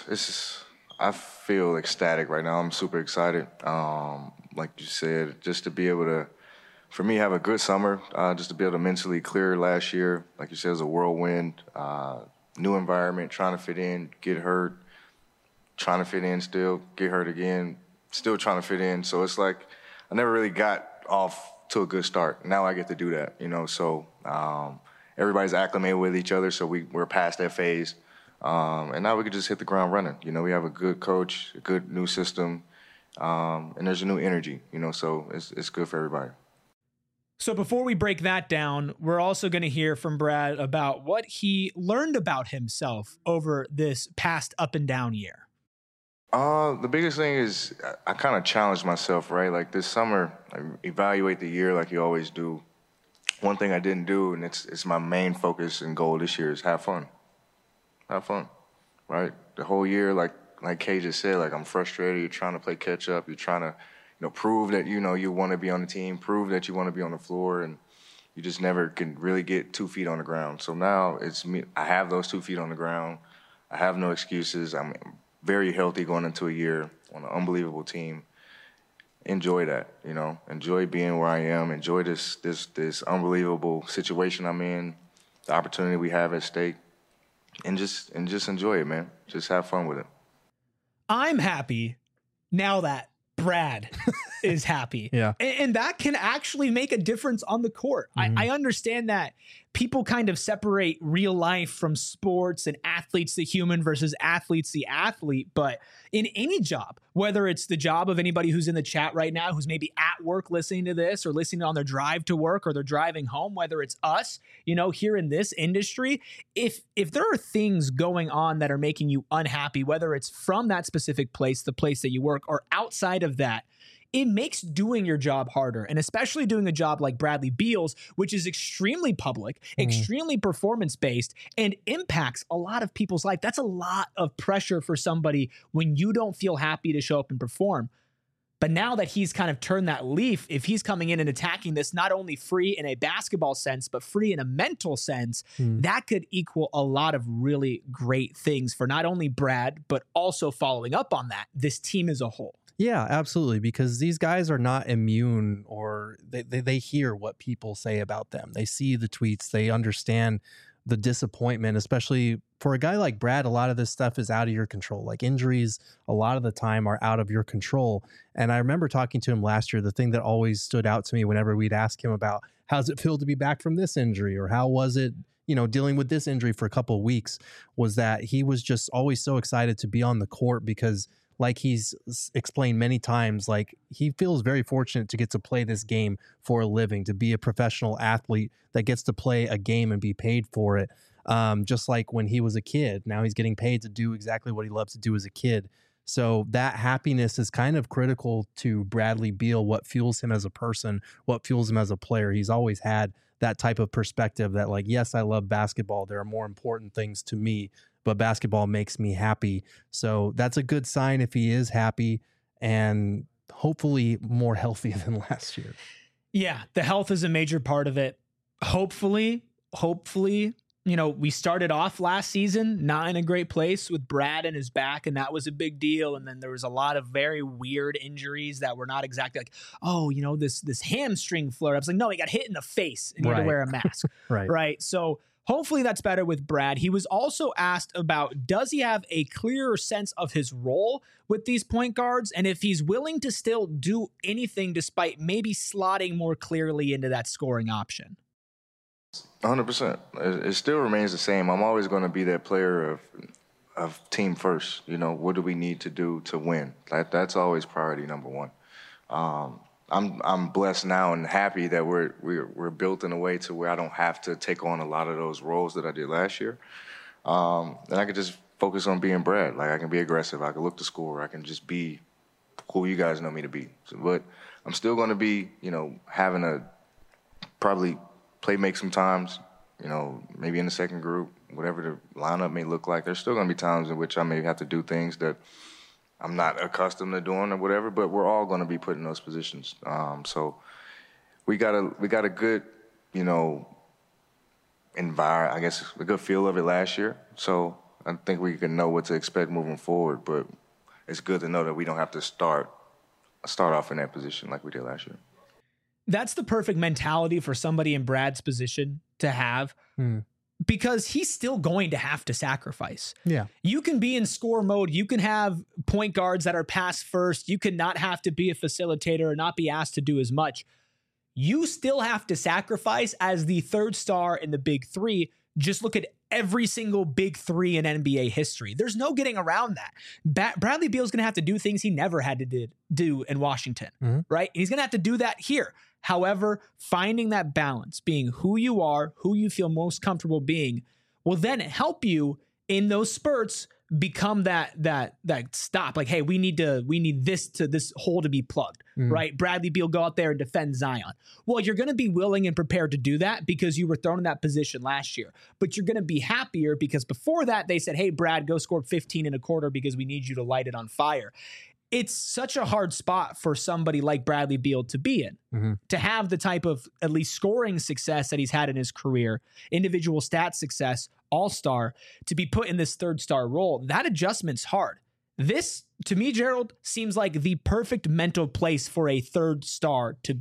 I feel ecstatic right now. I'm super excited. Like you said, just to be able to, for me, have a good summer, just to be able to mentally clear last year. Like you said, it was a whirlwind, new environment, trying to fit in, get hurt, trying to fit in still, get hurt again, still trying to fit in. So it's like I never really got off to a good start. Now I get to do that, you know. So everybody's acclimated with each other, so we're past that phase. And now we can just hit the ground running. You know, we have a good coach, a good new system, and there's a new energy, you know, so it's good for everybody. So before we break that down, we're also going to hear from Brad about what he learned about himself over this past up and down year. The biggest thing is I kind of challenged myself, right? Like this summer, I evaluate the year like you always do. One thing I didn't do, and it's my main focus and goal this year, is have fun. Have fun, right? The whole year, like Kay just said, like, I'm frustrated. You're trying to play catch up. You're trying to, you know, prove that, you know, you want to be on the team, prove that you want to be on the floor, and you just never can really get 2 feet on the ground. So now it's me. I have those 2 feet on the ground. I have no excuses. I'm very healthy going into a year on an unbelievable team. Enjoy that, you know. Enjoy being where I am. Enjoy this unbelievable situation I'm in, the opportunity we have at stake. And just enjoy it, man. Just have fun with it. I'm happy now that Brad is happy. Yeah. And that can actually make a difference on the court. I understand that people kind of separate real life from sports and athletes the human versus athletes the athlete. But in any job, whether it's the job of anybody who's in the chat right now, who's maybe at work listening to this or listening on their drive to work or they're driving home, whether it's us, here in this industry, if there are things going on that are making you unhappy, whether it's from that specific place, the place that you work, or outside of that, it makes doing your job harder. And especially doing a job like Bradley Beal's, which is extremely public, extremely performance-based, and impacts a lot of people's life. That's a lot of pressure for somebody when you don't feel happy to show up and perform. But now that he's kind of turned that leaf, if he's coming in and attacking this, not only free in a basketball sense, but free in a mental sense, that could equal a lot of really great things for not only Brad, but also following up on that, this team as a whole. Yeah, absolutely. Because these guys are not immune, or they hear what people say about them. They see the tweets. They understand the disappointment, especially for a guy like Brad. A lot of this stuff is out of your control. Like injuries, a lot of the time are out of your control. And I remember talking to him last year. The thing that always stood out to me whenever we'd ask him about how's it feel to be back from this injury, or how was it, dealing with this injury for a couple of weeks, was that he was just always so excited to be on the court because, like he's explained many times, like he feels very fortunate to get to play this game for a living, to be a professional athlete that gets to play a game and be paid for it. Just like when he was a kid, now he's getting paid to do exactly what he loves to do as a kid. So that happiness is kind of critical to Bradley Beal, what fuels him as a person, what fuels him as a player. He's always had that type of perspective that, like, yes, I love basketball. There are more important things to me, but basketball makes me happy. So that's a good sign if he is happy, and hopefully more healthy than last year. Yeah, the health is a major part of it. Hopefully, we started off last season not in a great place with Brad and his back, and that was a big deal. And then there was a lot of very weird injuries that were not exactly like, this hamstring flare-ups. Like, no, he got hit in the face and he had to wear a mask. Right. So hopefully that's better with Brad. He was also asked about, does he have a clearer sense of his role with these point guards? And if he's willing to still do anything despite maybe slotting more clearly into that scoring option. 100%. It still remains the same. I'm always going to be that player of team first. What do we need to do to win? That's always priority number one. I'm blessed now and happy that we're built in a way to where I don't have to take on a lot of those roles that I did last year. And I can just focus on being Brad. Like, I can be aggressive. I can look to score. I can just be who you guys know me to be. But I'm still going to be, having a probably play make sometimes, maybe in the second group, whatever the lineup may look like. There's still going to be times in which I may have to do things that I'm not accustomed to doing or whatever, but we're all going to be put in those positions. So we got a good, environment, I guess, a good feel of it last year. So I think we can know what to expect moving forward, but it's good to know that we don't have to start off in that position like we did last year. That's the perfect mentality for somebody in Brad's position to have, because he's still going to have to sacrifice. Yeah. You can be in score mode. You can have point guards that are pass first. You can not have to be a facilitator or not be asked to do as much. You still have to sacrifice as the third star in the big three. Just look at every single big three in NBA history. There's no getting around that. Bradley Beal's going to have to do things he never had to do in Washington, right? And he's going to have to do that here. However, finding that balance, being who you are, who you feel most comfortable being, will then help you in those spurts become that stop. Like, hey, we need this hole to be plugged, right? Bradley Beal, go out there and defend Zion. Well, you're going to be willing and prepared to do that because you were thrown in that position last year. But you're going to be happier because before that they said, hey, Brad, go score 15 in a quarter because we need you to light it on fire. It's such a hard spot for somebody like Bradley Beal to be in, to have the type of at least scoring success that he's had in his career, individual stat success, all-star, to be put in this third star role. That adjustment's hard. This, to me, Gerald, seems like the perfect mental place for a third star to be in.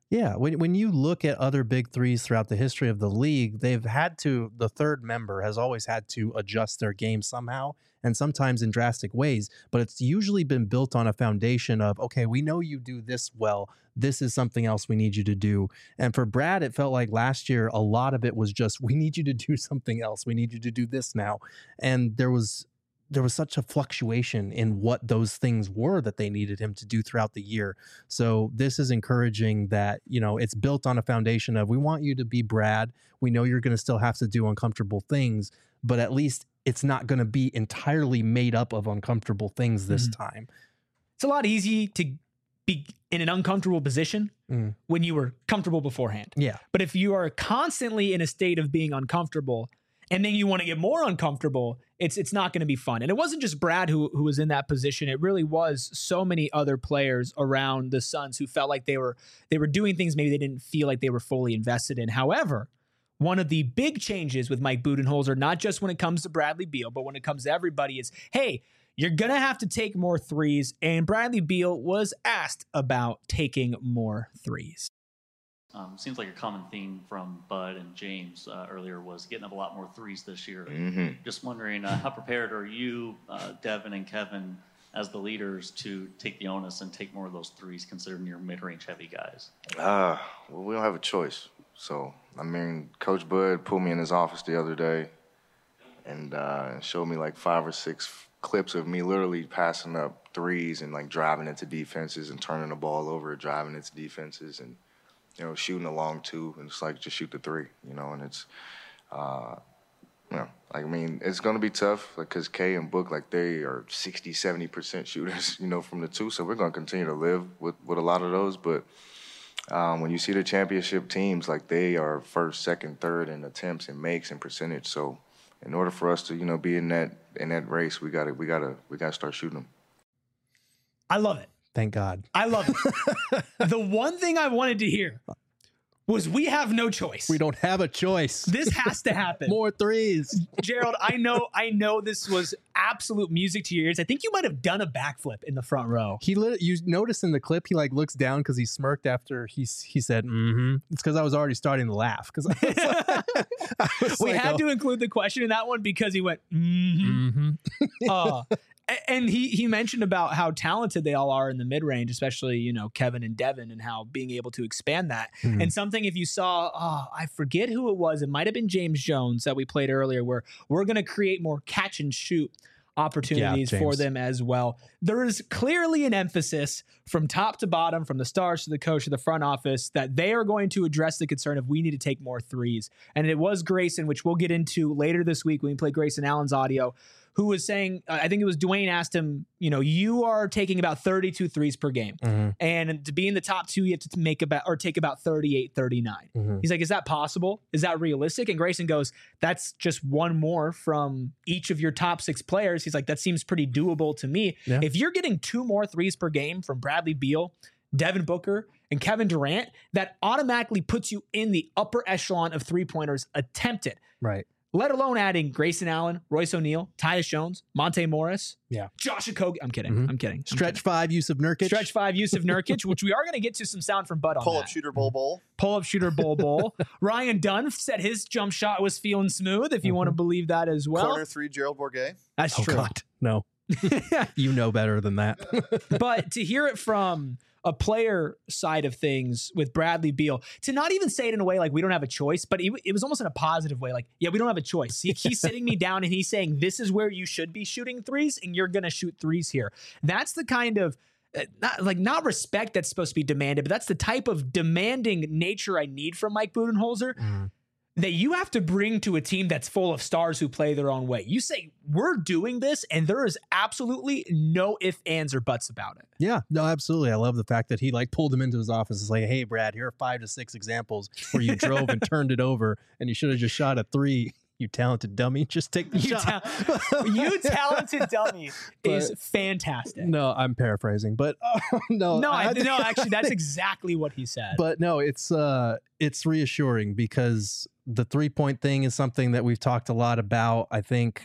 Yeah, when you look at other big threes throughout the history of the league, the third member has always had to adjust their game somehow, and sometimes in drastic ways, but it's usually been built on a foundation of, okay, we know you do this well, this is something else we need you to do. And for Brad, it felt like last year, a lot of it was just, we need you to do something else, we need you to do this now. And there was such a fluctuation in what those things were that they needed him to do throughout the year. So this is encouraging that, it's built on a foundation of, we want you to be Brad. We know you're going to still have to do uncomfortable things, but at least it's not going to be entirely made up of uncomfortable things this time. It's a lot easy to be in an uncomfortable position when you were comfortable beforehand. Yeah. But if you are constantly in a state of being uncomfortable and then you want to get more uncomfortable, it's not going to be fun. And it wasn't just Brad who was in that position. It really was so many other players around the Suns who felt like they were doing things maybe they didn't feel like they were fully invested in. However, one of the big changes with Mike Budenholzer, not just when it comes to Bradley Beal, but when it comes to everybody, is, hey, you're going to have to take more threes. And Bradley Beal was asked about taking more threes. Seems like a common theme from Bud and James earlier was getting up a lot more threes this year. Just wondering, how prepared are you, Devin and Kevin, as the leaders to take the onus and take more of those threes, considering you're mid-range heavy guys? Well, we don't have a choice. So, Coach Bud pulled me in his office the other day and showed me like 5 or 6 clips of me literally passing up threes and like driving into defenses and turning the ball over, driving into defenses and, shooting a long 2, and it's like, just shoot the 3, and it's, it's going to be tough, because Kay and Book, they are 60, 70% shooters, from the 2, so we're going to continue to live with a lot of those, but when you see the championship teams, they are first, second, third in attempts and makes and percentage, so in order for us to, be in that race, we gotta start shooting them. I love it. Thank God. I love it. The one thing I wanted to hear was we have no choice. We don't have a choice. This has to happen. More threes. Gerald, I know this was absolute music to your ears. I think you might have done a backflip in the front row. You notice in the clip, he looks down because he smirked after he said, mm-hmm. It's because I was already starting to laugh. Because we had to include the question in that one because he went, mm-hmm. And he mentioned about how talented they all are in the mid-range, especially, Kevin and Devin, and how being able to expand that. Mm-hmm. And something, if you saw, I forget who it was. It might have been James Jones that we played earlier, where we're going to create more catch and shoot opportunities for them as well. There is clearly an emphasis from top to bottom, from the stars to the coach to the front office, that they are going to address the concern of we need to take more threes. And it was Grayson, which we'll get into later this week when we play Grayson Allen's audio, who was saying, I think it was Dwayne asked him, you are taking about 32 threes per game. Mm-hmm. And to be in the top 2, you have to take about 38, 39. Mm-hmm. He's like, is that possible? Is that realistic? And Grayson goes, that's just one more from each of your top 6 players. He's like, that seems pretty doable to me. Yeah. If you're getting 2 more threes per game from Bradley Beal, Devin Booker, and Kevin Durant, that automatically puts you in the upper echelon of 3-pointers attempted. Right. Let alone adding Grayson Allen, Royce O'Neal, Tyus Jones, Monte Morris, Josh Okogie. I'm kidding. Mm-hmm. I'm kidding. Stretch 5, Yusuf Nurkic. Stretch 5, Yusuf Nurkic, which we are going to get to some sound from Bud on Pull-up shooter bowl. Pull-up shooter bowl. Ryan Dunn said his jump shot was feeling smooth, if you want to believe that as well. Corner 3, Gerald Bourguet. That's true. God, no. You know better than that. But to hear it from a player side of things with Bradley Beal, to not even say it in a way like we don't have a choice, but it was almost in a positive way. Like, yeah, we don't have a choice. He's sitting me down and he's saying, this is where you should be shooting threes and you're going to shoot threes here. That's the kind of, not respect that's supposed to be demanded, but that's the type of demanding nature I need from Mike Budenholzer. Mm. That you have to bring to a team that's full of stars who play their own way. You say, we're doing this, and there is absolutely no ifs, ands, or buts about it. Yeah, no, absolutely. I love the fact that he pulled him into his office. It's like, hey, Brad, here are 5 to 6 examples where you drove and turned it over, and you should have just shot a 3. You talented dummy. Just take the shot. You talented dummy is fantastic. No, I'm paraphrasing, but no. Actually, that's exactly what he said. But no, it's reassuring because the 3-point thing is something that we've talked a lot about. I think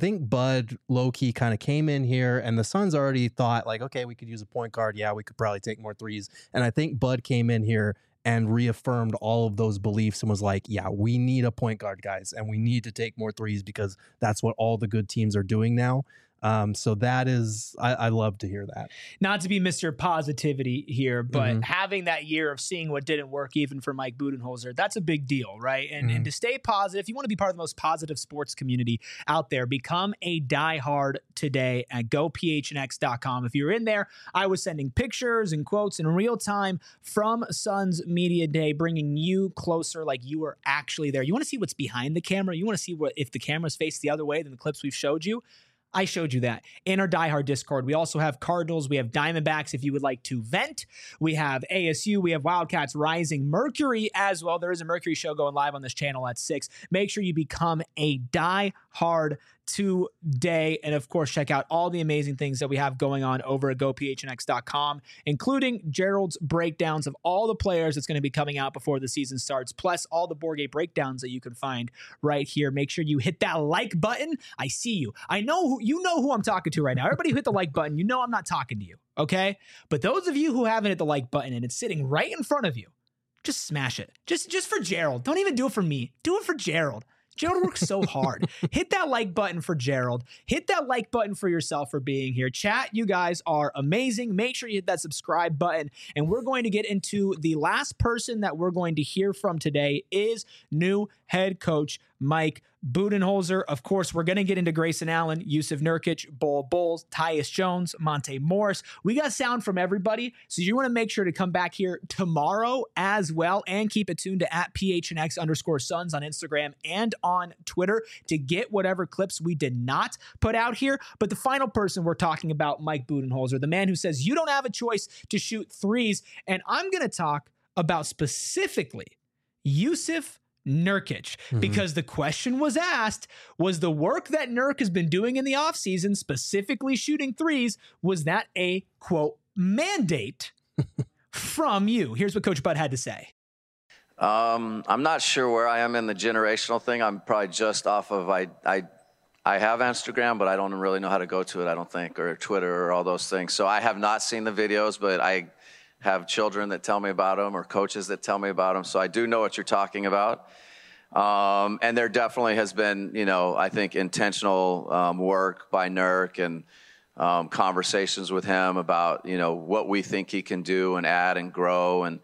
Bud low-key kind of came in here and the Suns already thought like, okay, we could use a point guard. Yeah, we could probably take more threes. And I think Bud came in here and reaffirmed all of those beliefs and was like, yeah, we need a point guard, guys, and we need to take more threes because that's what all the good teams are doing now. So that is, I love to hear that. Not to be Mr. Positivity here, but having that year of seeing what didn't work, even for Mike Budenholzer, that's a big deal, right? And to stay positive, if you want to be part of the most positive sports community out there, become a diehard today at gophnx.com. If you're in there, I was sending pictures and quotes in real time from Suns Media Day, bringing you closer like you were actually there. You want to see what's behind the camera? You want to see what if the camera's faced the other way than the clips we've showed you? I showed you that in our diehard Discord. We also have Cardinals. We have Diamondbacks if you would like to vent. We have ASU. We have Wildcats Rising. Mercury as well. There is a Mercury show going live on this channel at 6. Make sure you become a diehard today. And of course, check out all the amazing things that we have going on over at gophnx.com, including Gerald's breakdowns of all the players that's going to be coming out before the season starts, plus all the board game breakdowns that you can find right here. Make sure you hit that like button. I see you. I know you know who I'm talking to right now. Everybody who hit the like button, you know I'm not talking to you, okay? But those of you who haven't hit the like button and it's sitting right in front of you, just smash it. Just for Gerald. Don't even do it for me. Do it for Gerald. Gerald works so hard. Hit that like button for Gerald. Hit that like button for yourself for being here. Chat, you guys are amazing. Make sure you hit that subscribe button. And we're going to get into the last person that we're going to hear from today is new head coach Mike Budenholzer. Of course, we're going to get into Grayson Allen, Jusuf Nurkic, Bol Bol, Tyus Jones, Monte Morris. We got sound from everybody, so you want to make sure to come back here tomorrow as well and keep it tuned to @PHNX_Suns on Instagram and on Twitter to get whatever clips we did not put out here. But the final person we're talking about, Mike Budenholzer, the man who says you don't have a choice to shoot threes. And I'm going to talk about specifically Jusuf Nurkic, because the question was asked, was the work that Nurk has been doing in the offseason, specifically shooting threes, was that a, quote, mandate from you? Here's what Coach Bud had to say. I'm not sure where I am in the generational thing. I'm probably just off of, I have Instagram, but I don't really know how to go to it, I don't think, or Twitter or all those things. So I have not seen the videos, but I have children that tell me about them or coaches that tell me about them. So I do know what you're talking about. And there definitely has been, I think intentional work by Nurk and conversations with him about, what we think he can do and add and grow. And,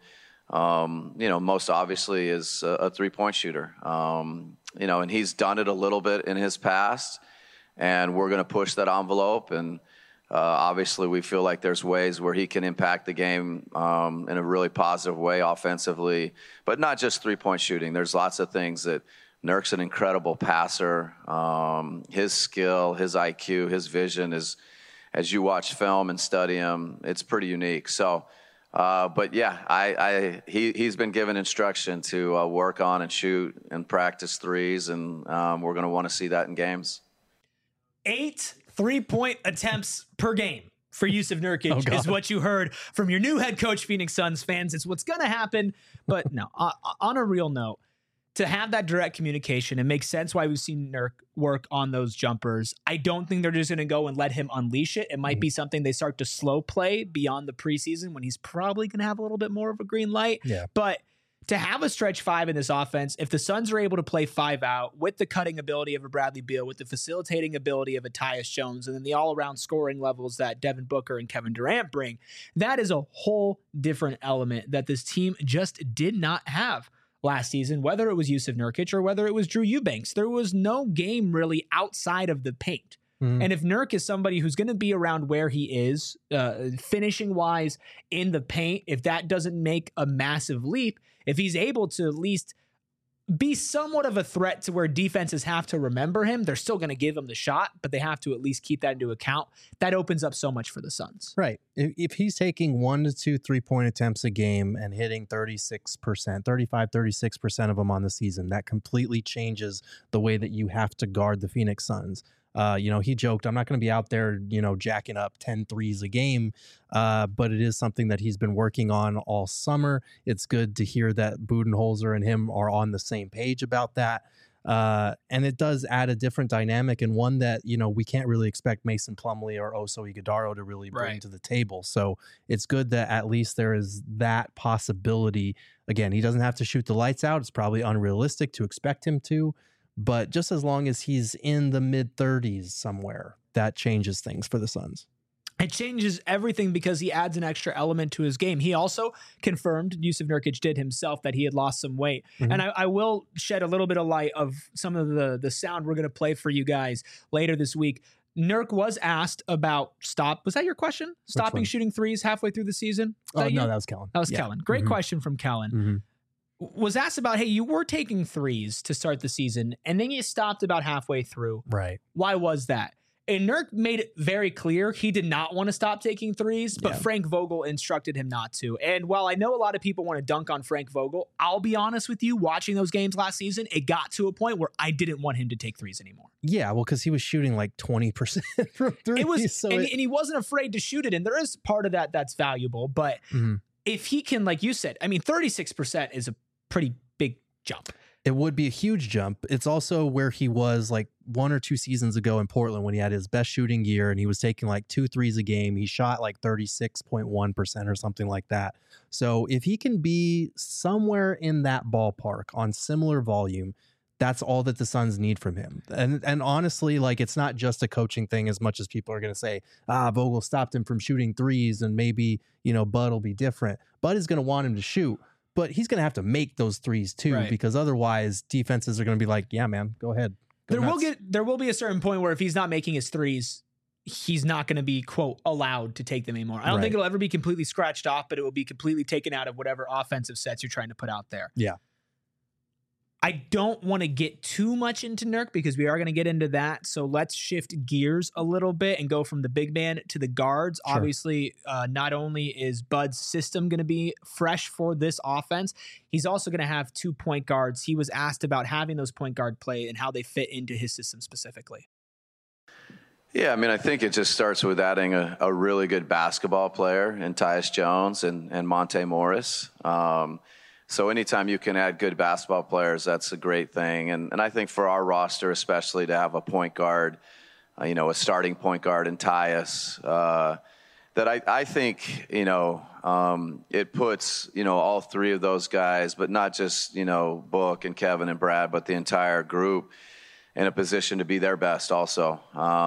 most obviously is a three-point shooter, and he's done it a little bit in his past, and we're going to push that envelope. And obviously we feel like there's ways where he can impact the game in a really positive way offensively, but not just three-point shooting. There's lots of things that Nurk's an incredible passer. His skill, his IQ, his vision is, as you watch film and study him, it's pretty unique. So, but yeah, he's been given instruction to work on and shoot and practice threes, and we're going to want to see that in games. 8 3-point attempts per game for Jusuf Nurkic is what you heard from your new head coach, Phoenix Suns fans. It's what's going to happen. But no, on a real note, to have that direct communication, it makes sense why we've seen Nurk work on those jumpers. I don't think they're just going to go and let him unleash it. It might be something they start to slow play beyond the preseason when he's probably going to have a little bit more of a green light. Yeah. But to have a stretch 5 in this offense, if the Suns are able to play 5 out with the cutting ability of a Bradley Beal, with the facilitating ability of a Tyus Jones, and then the all-around scoring levels that Devin Booker and Kevin Durant bring, that is a whole different element that this team just did not have last season, whether it was Jusuf Nurkic or whether it was Drew Eubanks. There was no game really outside of the paint. And if Nurk is somebody who's going to be around where he is, finishing-wise in the paint, if that doesn't make a massive leap, if he's able to at least be somewhat of a threat to where defenses have to remember him, they're still going to give him the shot, but they have to at least keep that into account. That opens up so much for the Suns. Right. If he's taking 1 to 2 3-point attempts a game and hitting 36% of them on the season, that completely changes the way that you have to guard the Phoenix Suns. He joked, I'm not going to be out there, jacking up 10 threes a game, but it is something that he's been working on all summer. It's good to hear that Budenholzer and him are on the same page about that. And it does add a different dynamic, and one that, we can't really expect Mason Plumlee or Oso Ighodaro to really bring to the table. So it's good that at least there is that possibility. Again, he doesn't have to shoot the lights out. It's probably unrealistic to expect him to, but just as long as he's in the mid-30s somewhere, that changes things for the Suns. It changes everything because he adds an extra element to his game. He also confirmed, Jusuf Nurkic did himself, that he had lost some weight. Mm-hmm. And I will shed a little bit of light of some of the sound we're going to play for you guys later this week. Nurk was asked about was that your question? Stopping shooting threes halfway through the season? No, that was Kellen. That was Kellen. Great question from Kellen. Mm-hmm. Was asked about, hey, you were taking threes to start the season, and then you stopped about halfway through. Right. Why was that? And Nurk made it very clear he did not want to stop taking threes, but Frank Vogel instructed him not to. And while I know a lot of people want to dunk on Frank Vogel, I'll be honest with you, watching those games last season, it got to a point where I didn't want him to take threes anymore. Yeah, well, because he was shooting like 20% from threes. It was, and he wasn't afraid to shoot it. And there is part of that that's valuable. But if he can, like you said, 36% is a pretty big jump. It would be a huge jump. It's also where he was like 1 or 2 seasons ago in Portland when he had his best shooting year and he was taking like 2 threes a game. He shot like 36.1% or something like that. So if he can be somewhere in that ballpark on similar volume, that's all that the Suns need from him. And honestly, like, it's not just a coaching thing as much as people are going to say, Vogel stopped him from shooting threes and maybe, Bud will be different. Bud is going to want him to shoot. But he's going to have to make those threes too, because otherwise defenses are going to be like, yeah, man, go ahead. There will be a certain point where if he's not making his threes, he's not going to be, quote, allowed to take them anymore. I don't think it'll ever be completely scratched off, but it will be completely taken out of whatever offensive sets you're trying to put out there. Yeah. I don't want to get too much into Nurk because we are going to get into that. So let's shift gears a little bit and go from the big man to the guards. Sure. Obviously, not only is Bud's system going to be fresh for this offense, he's also going to have 2 point guards. He was asked about having those point guard play and how they fit into his system specifically. Yeah, I think it just starts with adding a really good basketball player in Tyus Jones and Monte Morris. So anytime you can add good basketball players, that's a great thing. And I think for our roster, especially to have a point guard, a starting point guard in Tyus, that I think, it puts, all 3 of those guys, but not just, Book and Kevin and Brad, but the entire group in a position to be their best also.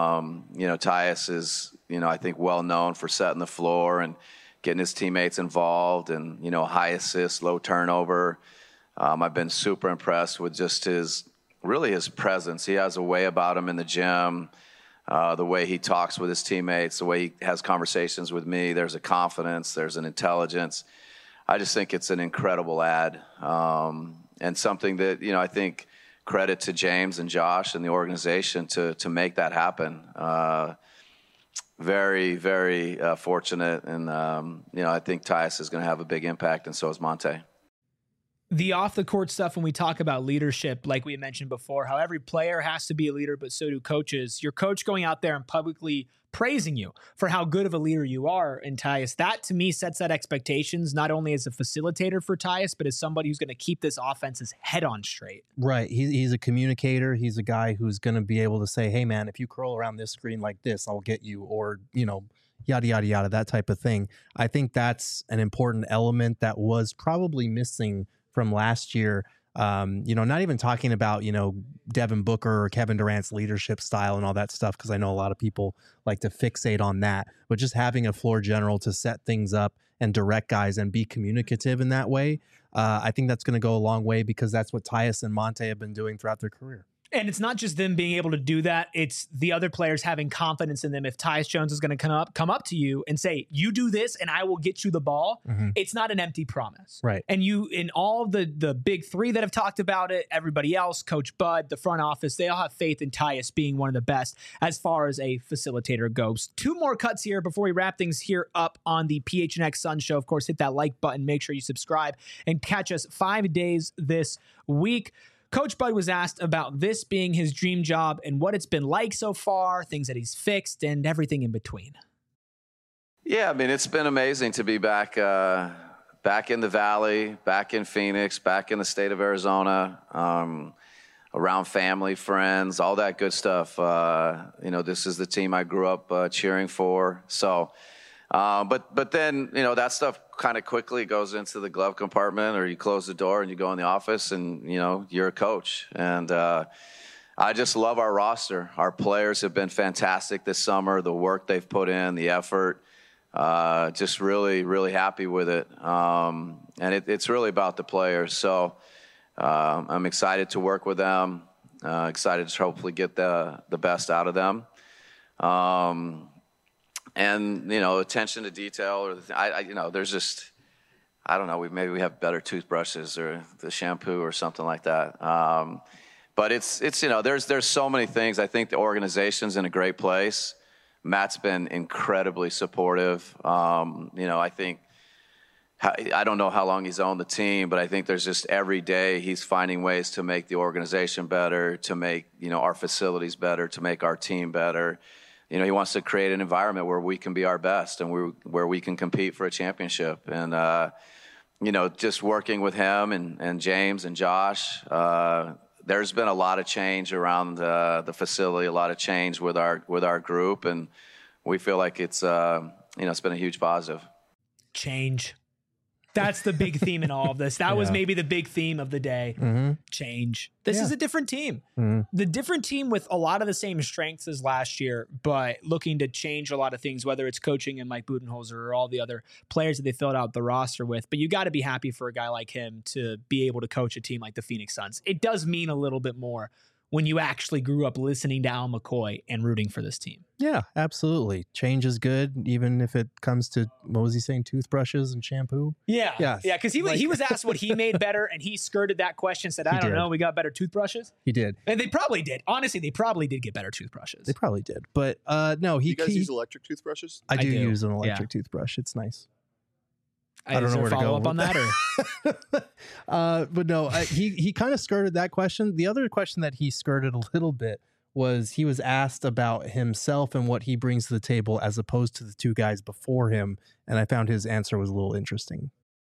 Tyus is, I think well known for setting the floor and getting his teammates involved and, high assists, low turnover. I've been super impressed with just his presence. He has a way about him in the gym, the way he talks with his teammates, the way he has conversations with me. There's a confidence, there's an intelligence. I just think it's an incredible add and something that, I think credit to James and Josh and the organization to make that happen. Very, very fortunate. And, I think Tyus is going to have a big impact, and so is Monte. The off-the-court stuff, when we talk about leadership, like we mentioned before, how every player has to be a leader, but so do coaches. Your coach going out there and publicly praising you for how good of a leader you are in Tyus, that to me sets that expectations, not only as a facilitator for Tyus, but as somebody who's going to keep this offense's head on straight. Right. He's a communicator. He's a guy who's going to be able to say, hey, man, if you curl around this screen like this, I'll get you, or, yada, yada, yada, that type of thing. I think that's an important element that was probably missing from last year. Not even talking about, Devin Booker or Kevin Durant's leadership style and all that stuff, because I know a lot of people like to fixate on that, but just having a floor general to set things up and direct guys and be communicative in that way, I think that's going to go a long way, because that's what Tyus and Monte have been doing throughout their career. And it's not just them being able to do that. It's the other players having confidence in them. If Tyus Jones is going to come up to you and say, you do this and I will get you the ball, it's not an empty promise. Right. And you, in all of the big 3 that have talked about it, everybody else, Coach Bud, the front office, they all have faith in Tyus being one of the best as far as a facilitator goes. 2 more cuts here before we wrap things here up on the PHNX Sun Show. Of course, hit that like button. Make sure you subscribe and catch us 5 days this week. Coach Bud was asked about this being his dream job and what it's been like so far, things that he's fixed, and everything in between. Yeah, it's been amazing to be back in the Valley, back in Phoenix, back in the state of Arizona. around family, friends, all that good stuff. This is the team I grew up cheering for. So, but then, that stuff kind of quickly goes into the glove compartment, or you close the door and you go in the office and, you're a coach. And I just love our roster. Our players have been fantastic this summer, the work they've put in, the effort. Just really, really happy with it. And it's really about the players. So I'm excited to work with them, excited to hopefully get the best out of them. And, attention to detail, or there's just, I don't know, maybe we have better toothbrushes or the shampoo or something like that. But it's there's so many things. I think the organization's in a great place. Matt's been incredibly supportive. I think, I don't know how long he's owned the team, but I think there's just every day he's finding ways to make the organization better, to make, our facilities better, to make our team better. He wants to create an environment where we can be our best and where we can compete for a championship. And, just working with him and James and Josh, there's been a lot of change around the facility, a lot of change with our group, and we feel like it's it's been a huge positive. Change. That's the big theme in all of this. That was maybe the big theme of the day. Mm-hmm. Change. This is a different team. Mm-hmm. The different team with a lot of the same strengths as last year, but looking to change a lot of things, whether it's coaching and Mike Budenholzer or all the other players that they filled out the roster with. But you got to be happy for a guy like him to be able to coach a team like the Phoenix Suns. It does mean a little bit more when you actually grew up listening to Al McCoy and rooting for this team. Yeah, absolutely. Change is good, even if it comes to, what was he saying, toothbrushes and shampoo? Yeah. Yes. Yeah, because he was asked what he made better, and he skirted that question, said, I don't know, we got better toothbrushes. He did. And they probably did. Honestly, they probably did get better toothbrushes. They probably did. But no, You guys use electric toothbrushes? I do use an electric toothbrush. It's nice. I don't know where to go up on that, or but no, he kind of skirted that question. The other question that he skirted a little bit was he was asked about himself and what he brings to the table as opposed to the two guys before him, and I found his answer was a little interesting.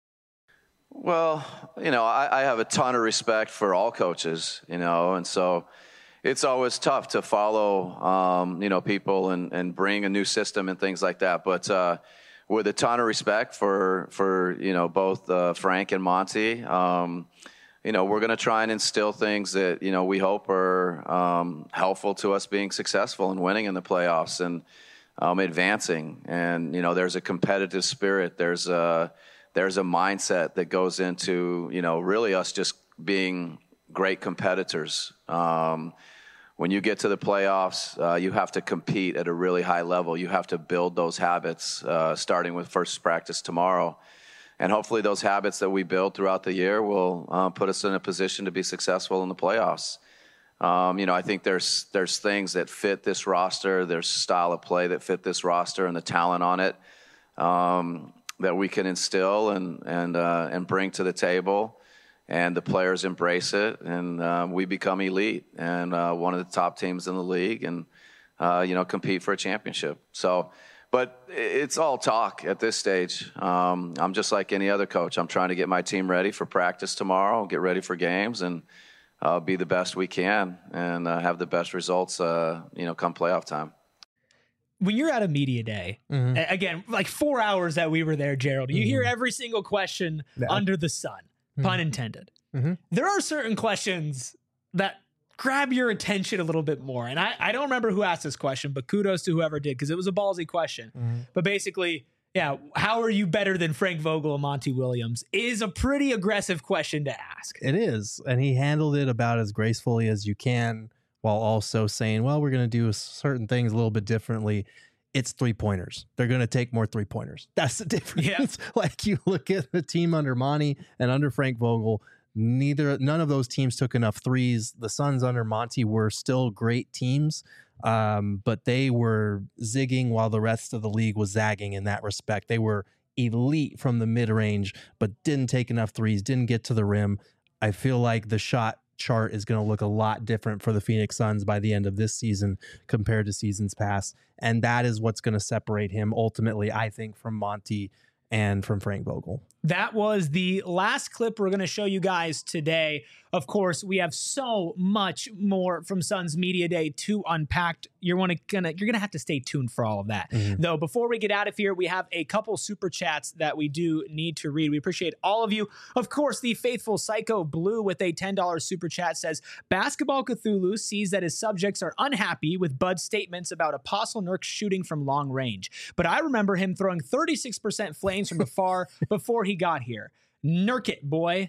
Well, I have a ton of respect for all coaches, and so it's always tough to follow, people and bring a new system and things like that. But with a ton of respect for both Frank and Monty, we're going to try and instill things that, we hope are helpful to us being successful and winning in the playoffs and advancing. And, there's a competitive spirit. There's a mindset that goes into, really us just being great competitors. When you get to the playoffs, you have to compete at a really high level. You have to build those habits, starting with first practice tomorrow. And hopefully those habits that we build throughout the year will put us in a position to be successful in the playoffs. I think there's things that fit this roster. There's style of play that fit this roster and the talent on it that we can instill and bring to the table. And the players embrace it, and we become elite and one of the top teams in the league, and compete for a championship. So, but it's all talk at this stage. I'm just like any other coach. I'm trying to get my team ready for practice tomorrow, get ready for games, and be the best we can, and have the best results. Come playoff time. When you're at a media day, again, like 4 hours that we were there, Gerald, you hear every single question under the sun. Pun intended. There are certain questions that grab your attention a little bit more. And I don't remember who asked this question, but kudos to whoever did, because it was a ballsy question. But basically, how are you better than Frank Vogel and Monty Williams is a pretty aggressive question to ask. It is. And he handled it about as gracefully as you can, while also saying, well, we're going to do certain things a little bit differently. It's 3-pointers. They're going to take more 3-pointers. That's the difference. Yeah. Like, you look at the team under Monty and under Frank Vogel, none of those teams took enough threes. The Suns under Monty were still great teams, but they were zigging while the rest of the league was zagging in that respect. They were elite from the mid-range, but didn't take enough threes, didn't get to the rim. I feel like the shot chart is going to look a lot different for the Phoenix Suns by the end of this season compared to seasons past. And that is what's going to separate him ultimately, I think, from Monty and from Frank Vogel. That was the last clip we're going to show you guys today Of course, we have so much more from Suns Media Day to unpack. You're gonna have to stay tuned for all of that. Though before we get out of here, we have a couple super chats that we do need to read. We appreciate all of you. Of course, the faithful Psycho Blue with a $10 super chat says, Basketball Cthulhu sees that his subjects are unhappy with Bud's statements about Apostle Nurk shooting from long range. But I remember him throwing 36% flames from afar before he got here. Nurk it, boy.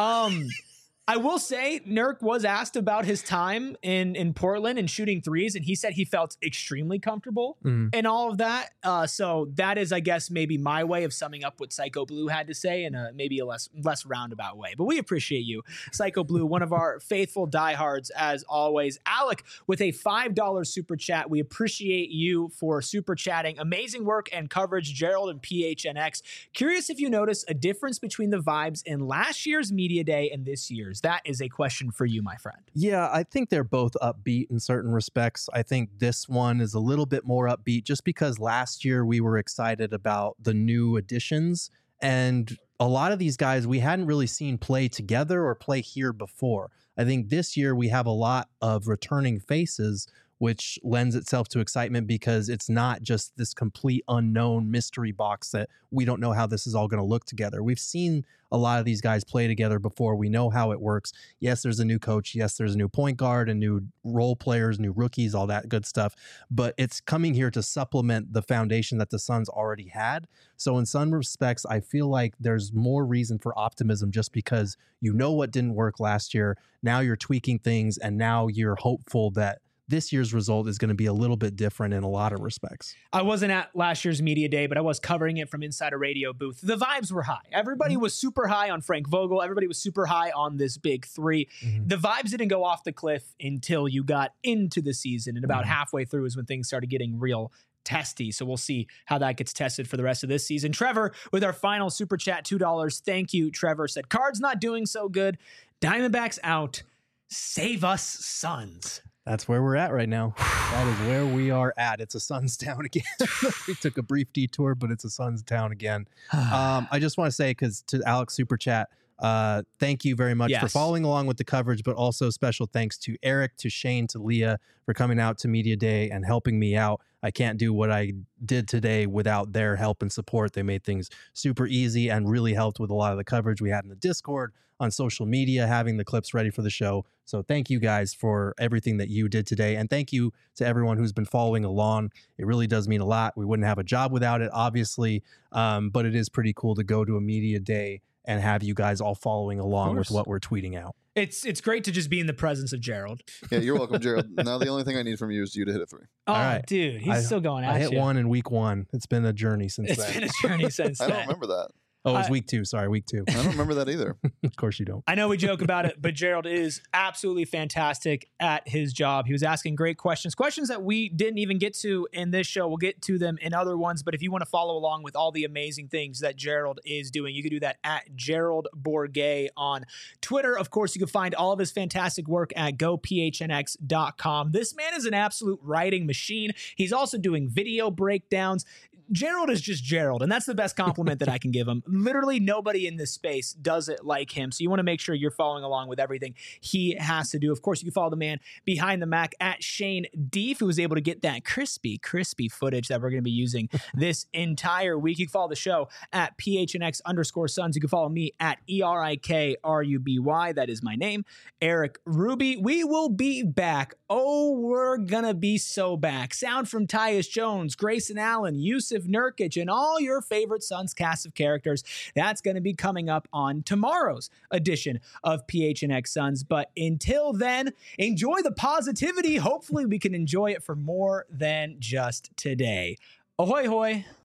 I will say Nurk was asked about his time in Portland and shooting threes, and he said he felt extremely comfortable in all of that. So that is, I guess, maybe my way of summing up what Psycho Blue had to say in maybe a less roundabout way. But we appreciate you, Psycho Blue, one of our faithful diehards as always. Alec with a $5 super chat. We appreciate you for super chatting. Amazing work and coverage, Gerald and PHNX. Curious if you notice a difference between the vibes in last year's Media Day and this year's. That is a question for you, my friend. Yeah, I think they're both upbeat in certain respects. I think this one is a little bit more upbeat just because last year we were excited about the new additions, and a lot of these guys we hadn't really seen play together or play here before. I think this year we have a lot of returning faces, which lends itself to excitement because it's not just this complete unknown mystery box that we don't know how this is all going to look together. We've seen a lot of these guys play together before. We know how it works. Yes, there's a new coach. Yes, there's a new point guard and new role players, new rookies, all that good stuff. But it's coming here to supplement the foundation that the Suns already had. So in some respects, I feel like there's more reason for optimism just because you know what didn't work last year. Now you're tweaking things, and now you're hopeful that this year's result is going to be a little bit different in a lot of respects. I wasn't at last year's Media Day, but I was covering it from inside a radio booth. The vibes were high. Everybody was super high on Frank Vogel. Everybody was super high on this big three. The vibes didn't go off the cliff until you got into the season, and about halfway through is when things started getting real testy. So we'll see how that gets tested for the rest of this season. Trevor with our final super chat, $2. Thank you, Trevor. Said, Cards not doing so good. Diamondbacks out. Save us, Suns. That's where we're at right now. That is where we are at. It's a Suns town again. We took a brief detour, but it's a Suns town again. I just want to say, because to Alex Super Chat, thank you very much for following along with the coverage, but also special thanks to Eric, to Shane, to Leah for coming out to Media Day and helping me out. I can't do what I did today without their help and support. They made things super easy and really helped with a lot of the coverage we had in the Discord, on social media, having the clips ready for the show. So thank you guys for everything that you did today. And thank you to everyone who's been following along. It really does mean a lot. We wouldn't have a job without it, obviously. But it is pretty cool to go to a Media Day and have you guys all following along with what we're tweeting out. It's great to just be in the presence of Gerald. Yeah, you're welcome, Gerald. Now the only thing I need from you is you to hit a 3. Oh, right. Dude, he's still going at you. I hit 1 in week 1. It's been a journey since then. It's been a journey since then. I don't remember that. Oh, it was week 2. Sorry, week 2. I don't remember that either. Of course you don't. I know we joke about it, but Gerald is absolutely fantastic at his job. He was asking great questions that we didn't even get to in this show. We'll get to them in other ones, but if you want to follow along with all the amazing things that Gerald is doing, you can do that at Gerald Bourguet on Twitter. Of course, you can find all of his fantastic work at gophnx.com. This man is an absolute writing machine. He's also doing video breakdowns. Gerald is just Gerald, and that's the best compliment that I can give him. Literally nobody in this space does it like him, so you want to make sure you're following along with everything he has to do. Of course, you can follow the man behind the Mac at Shane Deef, who was able to get that crispy footage that we're going to be using this entire week. You can follow the show at PHNX_Suns. You can follow me at ERIKRUBY. That is my name, Eric Ruby. We will be back. Oh, we're going to be so back. Sound from Tyus Jones, Grayson Allen, Yusuf Nurkic, and all your favorite Suns cast of characters. That's going to be coming up on tomorrow's edition of PHNX Suns. But until then, enjoy the positivity. Hopefully we can enjoy it for more than just today. Ahoy, hoy.